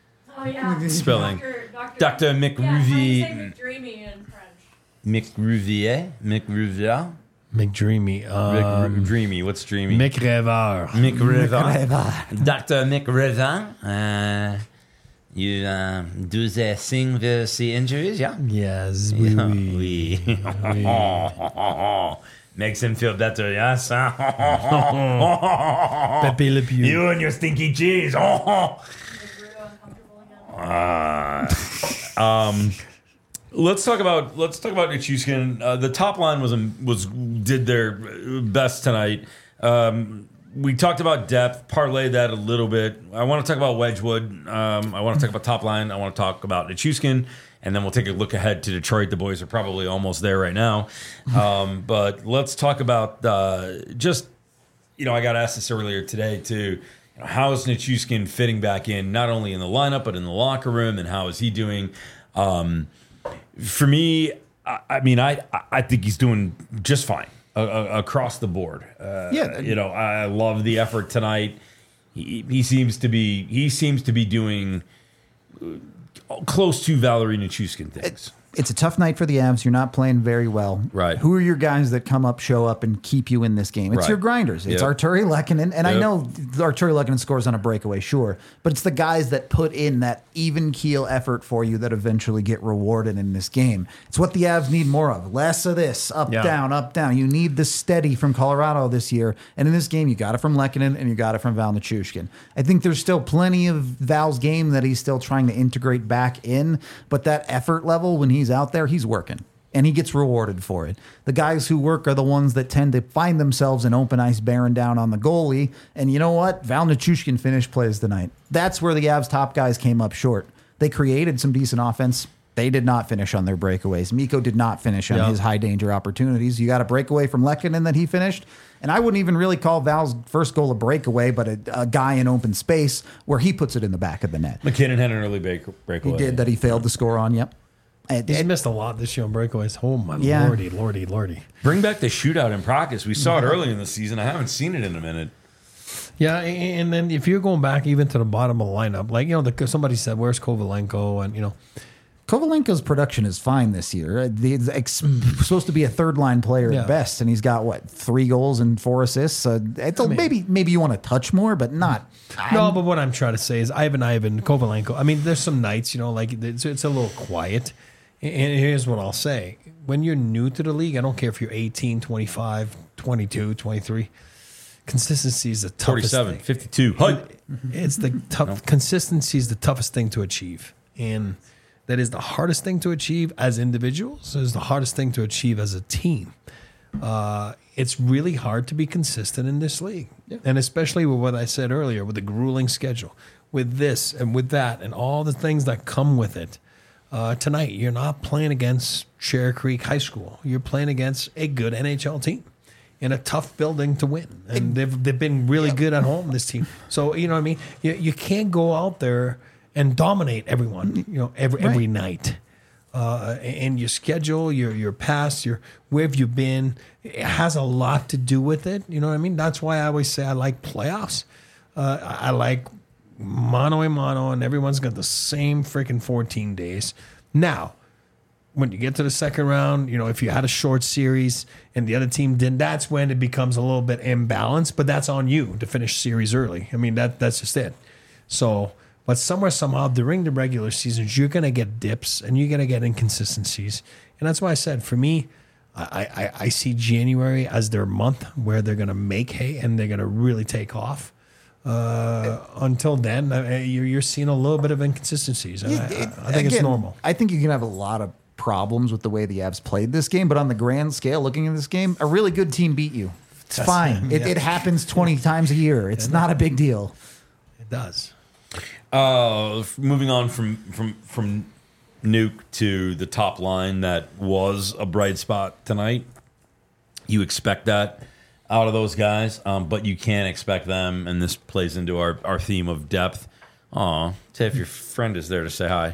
spelling. Dr. McRuvier. McDreamy in French. McRuvier? McDreamy. Dreamy. What's Dreamy? Mick Revard. Mick Revard. Dr. Mick Revard. You do the thing with the injuries, yeah? Yes. Oui. Makes him feel better, yes? Pepe Le Pew. You and your stinky cheese. Let's talk about Nichushkin. The top line did their best tonight. We talked about depth, parlay that a little bit. I want to talk about Wedgwood. I want to talk about top line. I want to talk about Nichushkin, and then we'll take a look ahead to Detroit. The boys are probably almost there right now. But let's talk about I got asked this earlier today too. How is Nichushkin fitting back in, not only in the lineup, but in the locker room, and how is he doing? For me, I think he's doing just fine across the board. I love the effort tonight. He seems to be doing close to Valeri Nichushkin things. It's a tough night for the Avs. You're not playing very well. Right. Who are your guys that show up, and keep you in this game? It's right. your grinders. It's Arturi Lehkonen. And I know Arturi Lehkonen scores on a breakaway, sure. But it's the guys that put in that even keel effort for you that eventually get rewarded in this game. It's what the Avs need more of. Less of this. Up, down, up, down. You need the steady from Colorado this year. And in this game, you got it from Lehkonen and you got it from Val Nichushkin. I think there's still plenty of Val's game that he's still trying to integrate back in. But that effort level, when he's out there, he's working. And he gets rewarded for it. The guys who work are the ones that tend to find themselves in open ice bearing down on the goalie. And you know what? Val Nichushkin finished plays tonight. That's where the Avs top guys came up short. They created some decent offense. They did not finish on their breakaways. Mikko did not finish on his high danger opportunities. You got a breakaway from Lehkonen that he finished. And I wouldn't even really call Val's first goal a breakaway, but a guy in open space where he puts it in the back of the net. McKinnon had an early breakaway. He did that he failed to score on, yep. He's missed a lot this year on breakaways. Oh, my lordy. Bring back the shootout in practice. We saw it early in the season. I haven't seen it in a minute. Yeah, and then if you're going back even to the bottom of the lineup, somebody said, where's Kovalenko? And, Kovalenko's production is fine this year. He's supposed to be a third-line player at best, and he's got, 3 goals and 4 assists? Maybe you want to touch more, but not. No, but what I'm trying to say is Ivan Kovalenko. There's some nights, it's a little quiet. And here's what I'll say. When you're new to the league, I don't care if you're 18, 25, 22, 23, consistency is the toughest 47, thing. 52. It's the tough. Consistency is the toughest thing to achieve. And that is the hardest thing to achieve as individuals. It is the hardest thing to achieve as a team. It's really hard to be consistent in this league. Yeah. And especially with what I said earlier, with the grueling schedule, with this and with that and all the things that come with it. Tonight, you're not playing against Cherry Creek High School. You're playing against a good NHL team in a tough building to win. And they've been really good at home, this team. So, you know what I mean? You can't go out there and dominate everyone, every night. And your schedule, your past, where have you been, it has a lot to do with it. You know what I mean? That's why I always say I like playoffs. I like mano a mano, and everyone's got the same freaking 14 days. Now, when you get to the second round, if you had a short series and the other team didn't, that's when it becomes a little bit imbalanced, but that's on you to finish series early. That's just it. So, but somehow during the regular seasons, you're going to get dips and you're going to get inconsistencies. And that's why I said, for me, I see January as their month where they're going to make hay and they're going to really take off. Until then, you're seeing a little bit of inconsistencies. I think it's normal. I think you can have a lot of problems with the way the Avs played this game, but on the grand scale, looking at this game, a really good team beat you. It's fine. It happens 20 times a year. It's not a big deal. It does. Moving on from Nuke to the top line, that was a bright spot tonight. You expect that out of those guys, but you can't expect them, and this plays into our theme of depth. Aw, Tiff, your friend is there to say hi.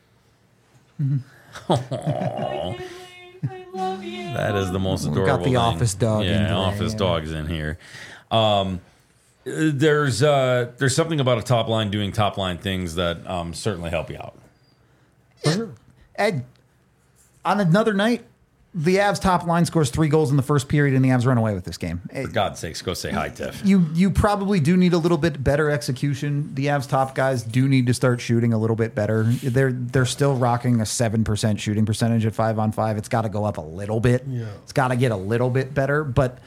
I love you. That is the most adorable got the thing. office dog in Yeah, today, office yeah. dog's in here. There's something about a top line doing top line things that certainly help you out. Ed, on another night, The Avs top line scores 3 goals in the first period, and the Avs run away with this game. For God's sakes, go say hi, Tiff. You probably do need a little bit better execution. The Avs top guys do need to start shooting a little bit better. They're still rocking a 7% shooting percentage at 5-on-5. It's got to go up a little bit. Yeah. It's got to get a little bit better. But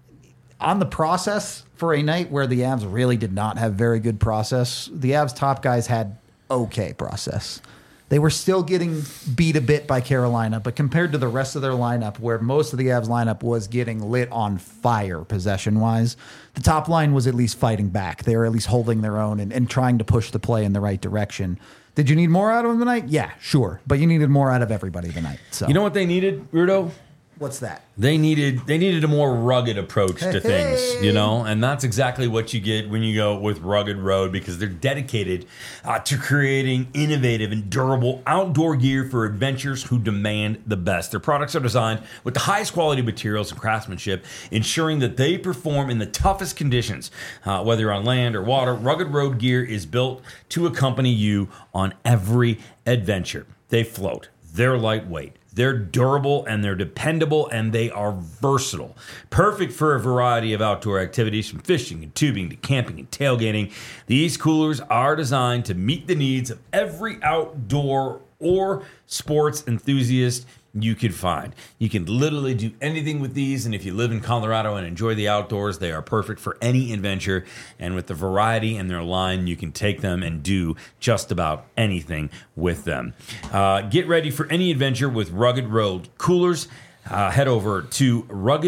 on the process, for a night where the Avs really did not have very good process, the Avs top guys had okay process. They were still getting beat a bit by Carolina, but compared to the rest of their lineup, where most of the Avs lineup was getting lit on fire possession-wise, the top line was at least fighting back. They were at least holding their own and trying to push the play in the right direction. Did you need more out of them tonight? Yeah, sure. But you needed more out of everybody tonight. So You know what they needed, Rudo? What's that? They needed a more rugged approach to things, you know, and that's exactly what you get when you go with Rugged Road, because they're dedicated to creating innovative and durable outdoor gear for adventurers who demand the best. Their products are designed with the highest quality materials and craftsmanship, ensuring that they perform in the toughest conditions, whether you're on land or water. Rugged Road gear is built to accompany you on every adventure. They float. They're lightweight. They're durable and they're dependable and they are versatile. Perfect for a variety of outdoor activities, from fishing and tubing to camping and tailgating. These coolers are designed to meet the needs of every outdoor or sports enthusiast you could find. You can literally do anything with these, and if you live in Colorado and enjoy the outdoors, they are perfect for any adventure. And with the variety in their line, you can take them and do just about anything with them. Get ready for any adventure with Rugged Road coolers. Head over to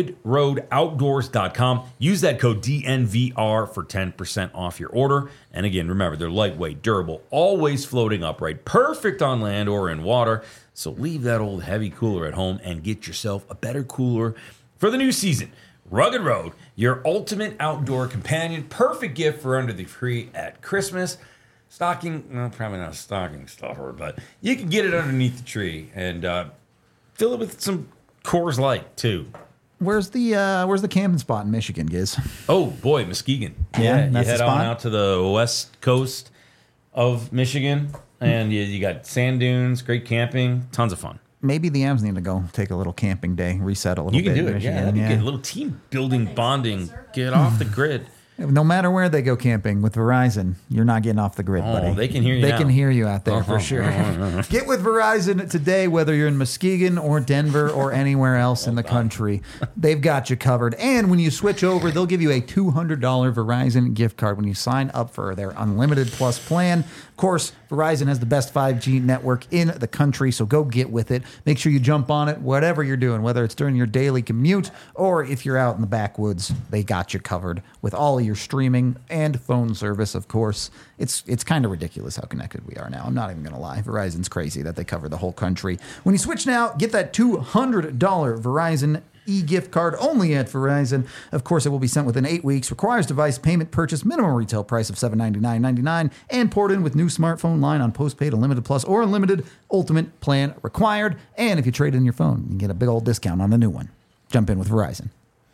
ruggedroadoutdoors.com. Use that code DNVR for 10% off your order. And again, remember, they're lightweight, durable, always floating upright, perfect on land or in water. So leave that old heavy cooler at home and get yourself a better cooler for the new season. Rugged Road, your ultimate outdoor companion. Perfect gift for under the tree at Christmas. Stocking, well, probably not a stocking stuffer, but you can get it underneath the tree and fill it with some Coors Light too. Where's the camping spot in Michigan, Giz? Oh boy, Muskegon. Yeah, you that's head the on spot? out to the west coast of Michigan, and you got sand dunes, great camping, tons of fun. Maybe the Avs need to go take a little camping day, reset a little You bit. can do in it. Yeah, Michigan. that'd be good. A little team building, bonding. Get off the grid. No matter where they go camping with Verizon, you're not getting off the grid, buddy. they can hear you They now. can hear you out there for sure. Get with Verizon today, whether you're in Muskegon or Denver or anywhere else in the country. They've got you covered. And when you switch over, they'll give you a $200 Verizon gift card when you sign up for their Unlimited Plus plan. Of course, Verizon has the best 5G network in the country, so go get with it. Make sure you jump on it, whatever you're doing, whether it's during your daily commute or if you're out in the backwoods, they got you covered with all of your streaming and phone service, of course. It's kind of ridiculous how connected we are now. I'm not even going to lie. Verizon's crazy that they cover the whole country. When you switch now, get that $200 Verizon e-gift card only at Verizon. Of course, it will be sent within 8 weeks. Requires device payment, purchase, minimum retail price of $799.99, and port in with new smartphone line on postpaid, Unlimited Plus, or Unlimited Ultimate plan required. And if you trade in your phone, you can get a big old discount on the new one. Jump in with Verizon.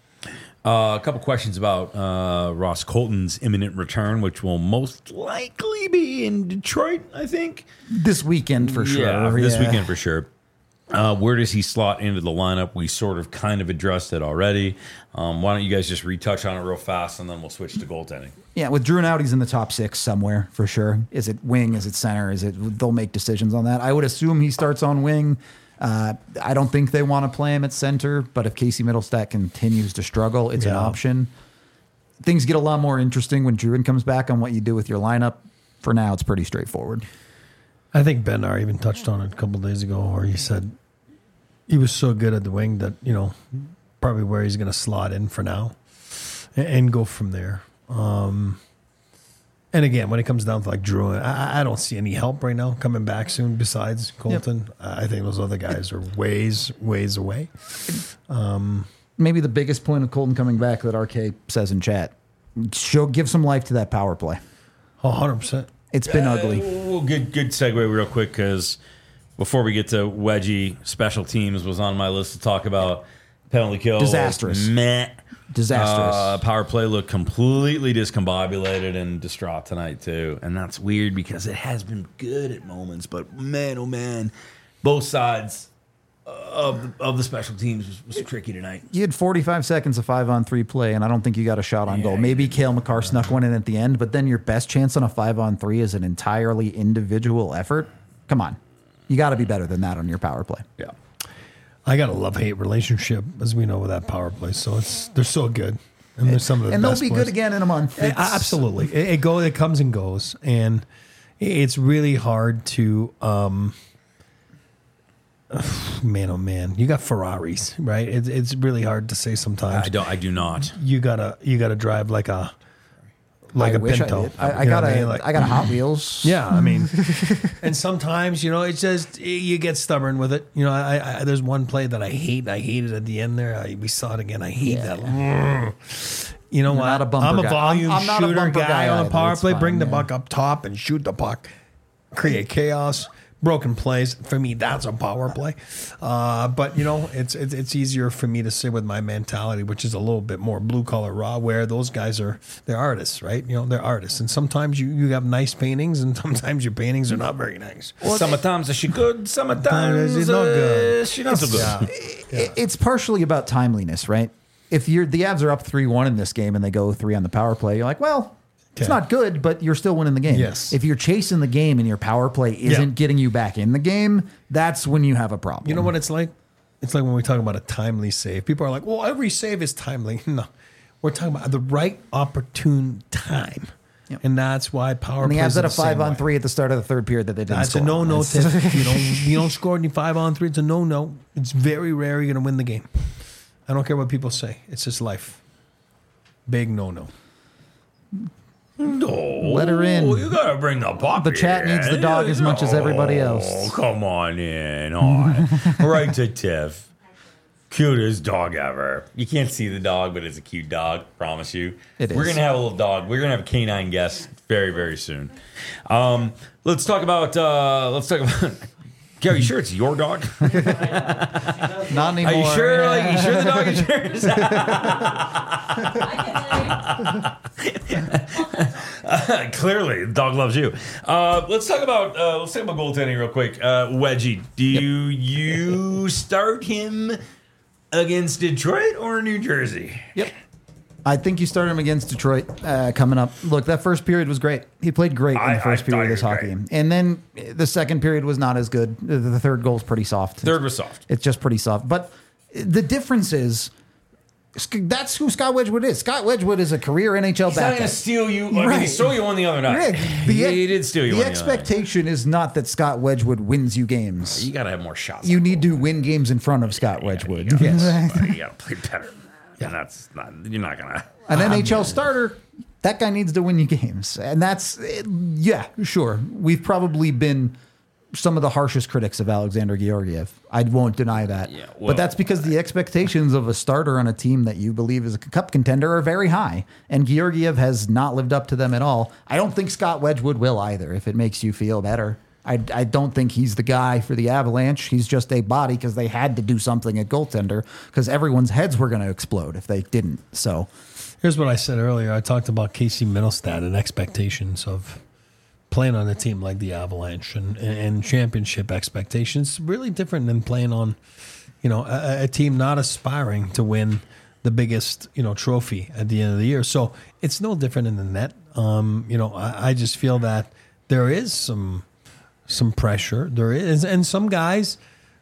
A couple questions about Ross Colton's imminent return, which will most likely be in Detroit, I think. This weekend for sure. Yeah, this weekend for sure. Where does he slot into the lineup? We sort of kind of addressed it already. Why don't you guys just retouch on it real fast, and then we'll switch to goaltending. Yeah, with Drew out, he's in the top 6 somewhere for sure. Is it wing? Is it center? They'll make decisions on that. I would assume he starts on wing. I don't think they want to play him at center, but if Casey Middlestat continues to struggle, it's an option. Things get a lot more interesting when Druin comes back on what you do with your lineup. For now, it's pretty straightforward. I think Bednar even touched on it a couple days ago, where he said he was so good at the wing that, probably where he's going to slot in for now and go from there. And again, when it comes down to like Drew, I don't see any help right now coming back soon besides Colton. Yep. I think those other guys are ways away. Maybe the biggest point of Colton coming back that RK says in chat, give some life to that power play. 100%. It's been ugly. Well, good segue real quick, because before we get to Wedgie, special teams was on my list to talk about. Penalty kill. Disastrous. Meh. Disastrous. Power play looked completely discombobulated and distraught tonight, too. And that's weird because it has been good at moments. But, man, oh, man, both sides of the special teams was tricky tonight. You had 45 seconds of 5-on-3 play, and I don't think you got a shot on goal. Maybe Cale Makar snuck one in at the end, but then your best chance on a 5-on-3 is an entirely individual effort. Come on. You got to be better than that on your power play. Yeah. I got a love-hate relationship, as we know, with that power play. So they're so good. And there's some of the And they'll best be players. good again in a month. Absolutely. It comes and goes. And it's really hard to man, oh man, you got Ferraris, right? It's really hard to say sometimes. I do not. You gotta drive like a I wish Pinto. I did. I You know got what a, mean? Like- I got a Hot Wheels. Yeah, I mean, and sometimes it's just you get stubborn with it. I there's one play that I hate. I hated at the end there. We saw it again. I hate that. You know You're what? not a bumper I'm a guy. volume I'm not a shooter bumper guy guy on a either. power It's play. fine, Bring the yeah. puck up top and shoot the puck. Create chaos. Broken plays. For me, that's a power play. But it's easier for me to say with my mentality, which is a little bit more blue collar raw, where those guys they're artists, right? They're artists, and sometimes you have nice paintings, and sometimes your paintings are not very nice. Sometimes she good, sometimes She's not good. She's not so good. It's partially about timeliness, right? If the Avs are up 3-1 in this game and they go 3 on the power play, you're like, well, it's Okay. not good, but you're still winning the game. Yes. If you're chasing the game and your power play isn't getting you back in the game, that's when you have a problem. You know what it's like? It's like when we talk about a timely save. People are like, well, every save is timely. No, we're talking about the right opportune time. Yep. And that's why power And the plays Avs had are a the same 5-on-3 way. at the start of the third period that they didn't That's score. a no-no. It's- Tip. You don't score any 5-on-3. It's a no-no. It's very rare you're going to win the game. I don't care what people say. It's just life. Big no-no. No, Let her in. You gotta bring the puppy. The chat needs the dog as much as everybody else. Oh, come on in. On. Right to Tiff. Cutest dog ever. You can't see the dog, but it's a cute dog. Promise you. It We're is. gonna have a little dog. We're gonna have a canine guest very, very soon. Let's talk about. Gary, you sure it's your dog? Not anymore. Are you sure? Like, you sure the dog is yours? Clearly, the dog loves you. Let's talk about goaltending real quick. Wedgie, do you start him against Detroit or New Jersey? Yep. I think you start him against Detroit coming up. Look, that first period was great. He played great in the first period of this hockey game. And then the second period was not as good. The third goal's pretty soft. Third was soft. It's just pretty soft. But the difference is that's who Scott Wedgwood is. Scott Wedgwood is a career NHL He's not backup. going to steal you. I mean, Right. he stole you one the other night. Rick, He did steal you The one the other night. expectation is not that Scott Wedgwood wins you games. You got to have more shots. You need to win games in front of Scott Wedgwood. Yes. You got to play better. And that's not, you're not going to. An NHL starter, that guy needs to win you games. And that's, yeah, sure. We've probably been some of the harshest critics of Alexander Georgiev. I won't deny that. Yeah, well, but that's because the expectations of a starter on a team that you believe is a cup contender are very high. And Georgiev has not lived up to them at all. I don't think Scott Wedgwood will either, if it makes you feel better. I don't think he's the guy for the Avalanche. He's just a body because they had to do something at goaltender because everyone's heads were going to explode if they didn't. So Here's what I said earlier. I talked about Casey Middlestad and expectations of playing on a team like the Avalanche and championship expectations. Really different than playing on, a team not aspiring to win the biggest, trophy at the end of the year. So it's no different in the net. I just feel that there is some pressure. There is, and some guys.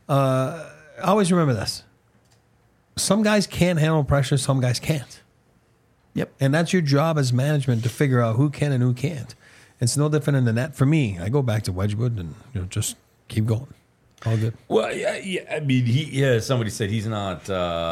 Always remember this: some guys can't handle pressure. Some guys can't. Yep. And that's your job as management to figure out who can and who can't. It's no different in the net. For me, I go back to Wedgwood and just keep going. All good. Well, yeah. I mean, somebody said he's not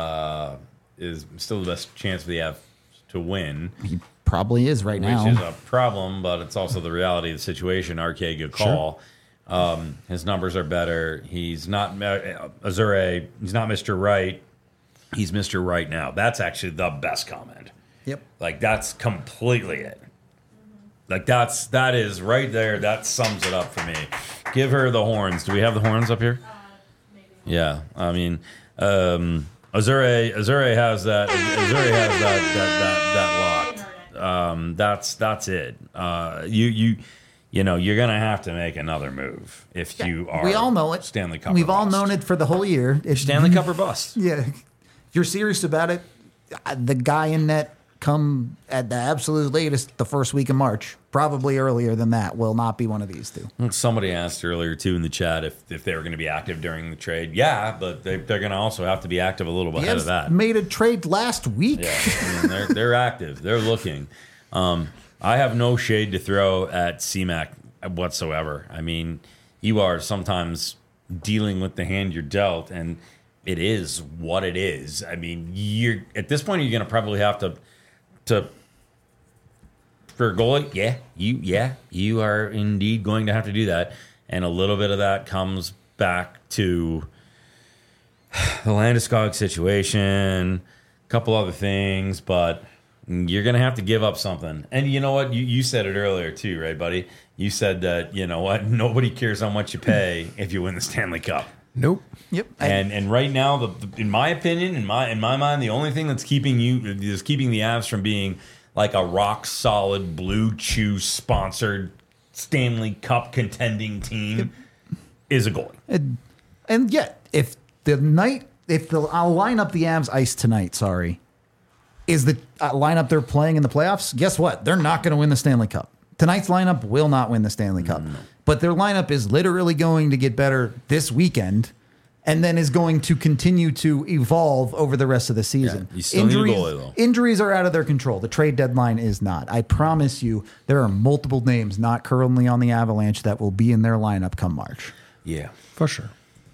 is still the best chance we have to win, he probably is right which now. is a problem, but it's also the reality of the situation. RK, good call. His numbers are better. He's not Azure. He's not Mr. Right. He's Mr. Right now. That's actually the best comment. Yep. Like, that's completely it. Like, that is right there. That sums it up for me. Give her the horns. Do we have the horns up here? Maybe. Yeah. I mean, Azure has that. Azure has that locked. That's it. you're going to have to make another move if you are. We all know it. Stanley Cup. We've or all bust. known it for the whole year. It's Stanley Cup or bust. Yeah. If you're serious about it, the guy in net come at the absolute latest the first week of March. Probably earlier than that will not be one of these two. Somebody asked earlier, too, in the chat if they were going to be active during the trade. Yeah, but they're going to also have to be active a little bit ahead of that. Made a trade last week. Yeah, I mean, they're active. They're looking. I have no shade to throw at CMAC whatsoever. I mean, you are sometimes dealing with the hand you're dealt, and it is what it is. I mean, you're at this point, you're going to probably have to for a goalie. You are indeed going to have to do that, and a little bit of that comes back to the Landeskog situation, a couple other things, but you're going to have to give up something. And you know what? You said it earlier too, right, buddy? You said that, you know what? Nobody cares how much you pay if you win the Stanley Cup. Nope. Yep. And right now, in my opinion, in my mind, the only thing that's keeping the Avs from being like a rock solid Blue Chew sponsored Stanley Cup contending team is a goalie. And yet, if I'll line up the Avs ice tonight, is the lineup they're playing in the playoffs, guess what? They're not going to win the Stanley Cup. Tonight's lineup will not win the Stanley Cup. But their lineup is literally going to get better this weekend and then is going to continue to evolve over the rest of the season. Yeah, you still need a goalie, though. Injuries are out of their control. The trade deadline is not. I promise you, there are multiple names not currently on the Avalanche that will be in their lineup come March. Yeah. For sure.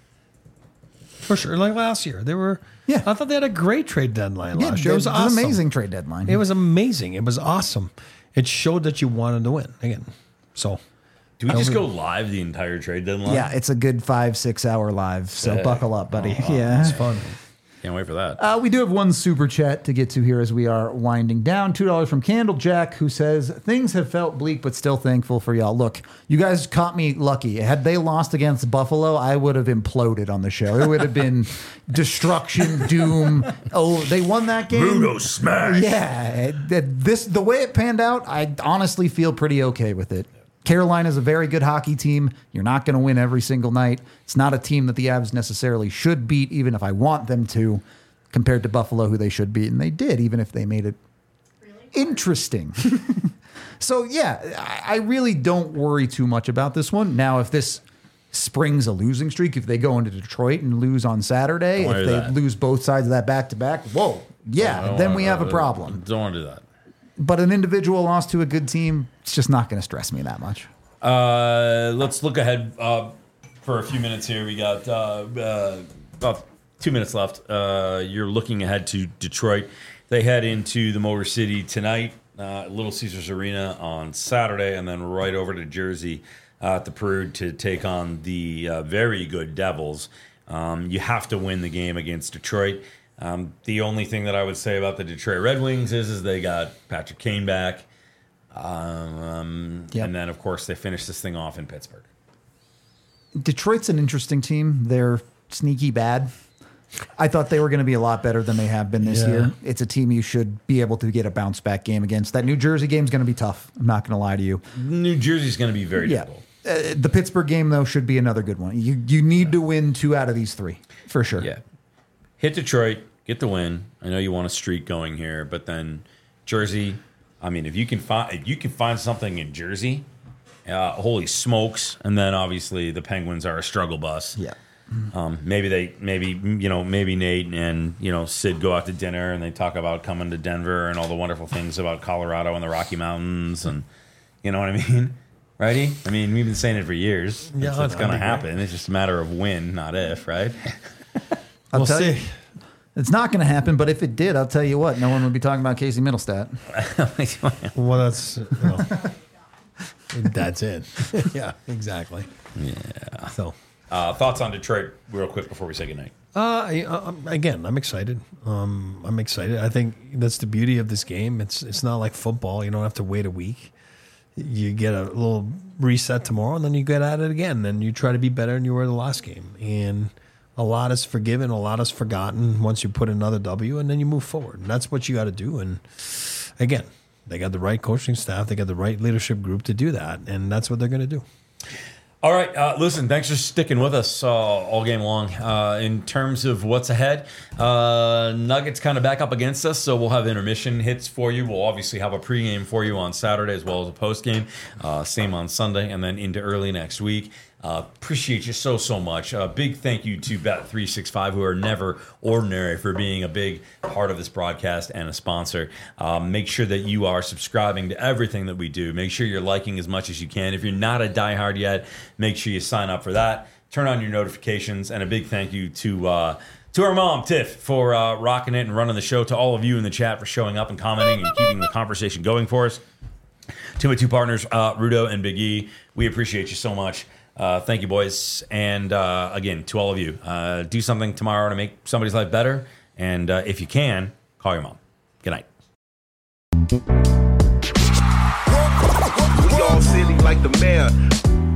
Like last year. Yeah. I thought they had a great trade deadline last year. It was an awesome. amazing trade deadline. It was amazing. It was awesome. It showed that you wanted to win again. So, Do we just go live the entire trade deadline? Yeah, it's a good 5-6 hour live. So buckle up, buddy. Yeah. it's fun. Can't wait for that. We do have one super chat to get to here as we are winding down. $2 from Candlejack, who says, things have felt bleak, but still thankful for y'all. Look, you guys caught me lucky. Had they lost against Buffalo, I would have imploded on the show. It would have been destruction, doom. Oh, they won that game. Mudo smash. Yeah. The way it panned out, I honestly feel pretty okay with it. Carolina's a very good hockey team. You're not going to win every single night. It's not a team that the Avs necessarily should beat, even if I want them to, compared to Buffalo, who they should beat. And they did, even if they made it interesting. So, yeah, I really don't worry too much about this one. Now, if this springs a losing streak, if they go into Detroit and lose on Saturday, if they lose both sides of that back-to-back, whoa, yeah, then we have a problem. Don't want to do that. But an individual loss to a good team, it's just not going to stress me that much. Let's look ahead for a few minutes here. We got about 2 minutes left. You're looking ahead to Detroit. They head into the Motor City tonight, Little Caesars Arena on Saturday, and then right over to Jersey at the Prude to take on the very good Devils. You have to win the game against Detroit. The only thing that I would say about the Detroit Red Wings is they got Patrick Kane back. And then, of course, they finish this thing off in Pittsburgh. Detroit's an interesting team. They're sneaky bad. I thought they were going to be a lot better than they have been this year. It's a team you should be able to get a bounce-back game against. That New Jersey game is going to be tough. I'm not going to lie to you. New Jersey's going to be very difficult. The Pittsburgh game, though, should be another good one. You need to win 2 out of these 3, for sure. Yeah. Hit Detroit. Get the win. I know you want a streak going here, but then Jersey. I mean, if you can find something in Jersey, holy smokes! And then obviously the Penguins are a struggle bus. Yeah. Maybe Nate and Sid go out to dinner and they talk about coming to Denver and all the wonderful things about Colorado and the Rocky Mountains, and you know what I mean, righty? I mean, we've been saying it for years. Yeah, it's going to happen. It's just a matter of when, not if, right? I'll tell see. you. It's not going to happen, but if it did, I'll tell you what, no one would be talking about Casey Middlestat. Well, that's it. Yeah, exactly. Yeah. So, thoughts on Detroit real quick before we say goodnight? again, I'm excited. I think that's the beauty of this game. It's not like football. You don't have to wait a week. You get a little reset tomorrow, and then you get at it again, and you try to be better than you were the last game. And a lot is forgiven, a lot is forgotten once you put another W, and then you move forward. And that's what you got to do. And again, They got the right coaching staff. They got the right leadership group to do that, and that's what they're going to do. All right, listen, thanks for sticking with us all game long. In terms of what's ahead, Nuggets kind of back up against us, so we'll have intermission hits for you. We'll obviously have a pregame for you on Saturday as well as a postgame. Same on Sunday, and then into early next week. Appreciate you so much. Big thank you to Bet365, who are never ordinary, for being a big part of this broadcast and a sponsor. Make sure that you are subscribing to everything that we do. Make sure you're liking as much as you can. If you're not a diehard yet, make sure you sign up for that. Turn on your notifications, and a big thank you to our mom, Tiff, for rocking it and running the show. To all of you in the chat for showing up and commenting and keeping the conversation going for us. To my two partners, Rudo and Big E, we appreciate you so much. Thank you, boys. And again, to all of you, do something tomorrow to make somebody's life better. And if you can, call your mom. Good night. We all silly like the mayor.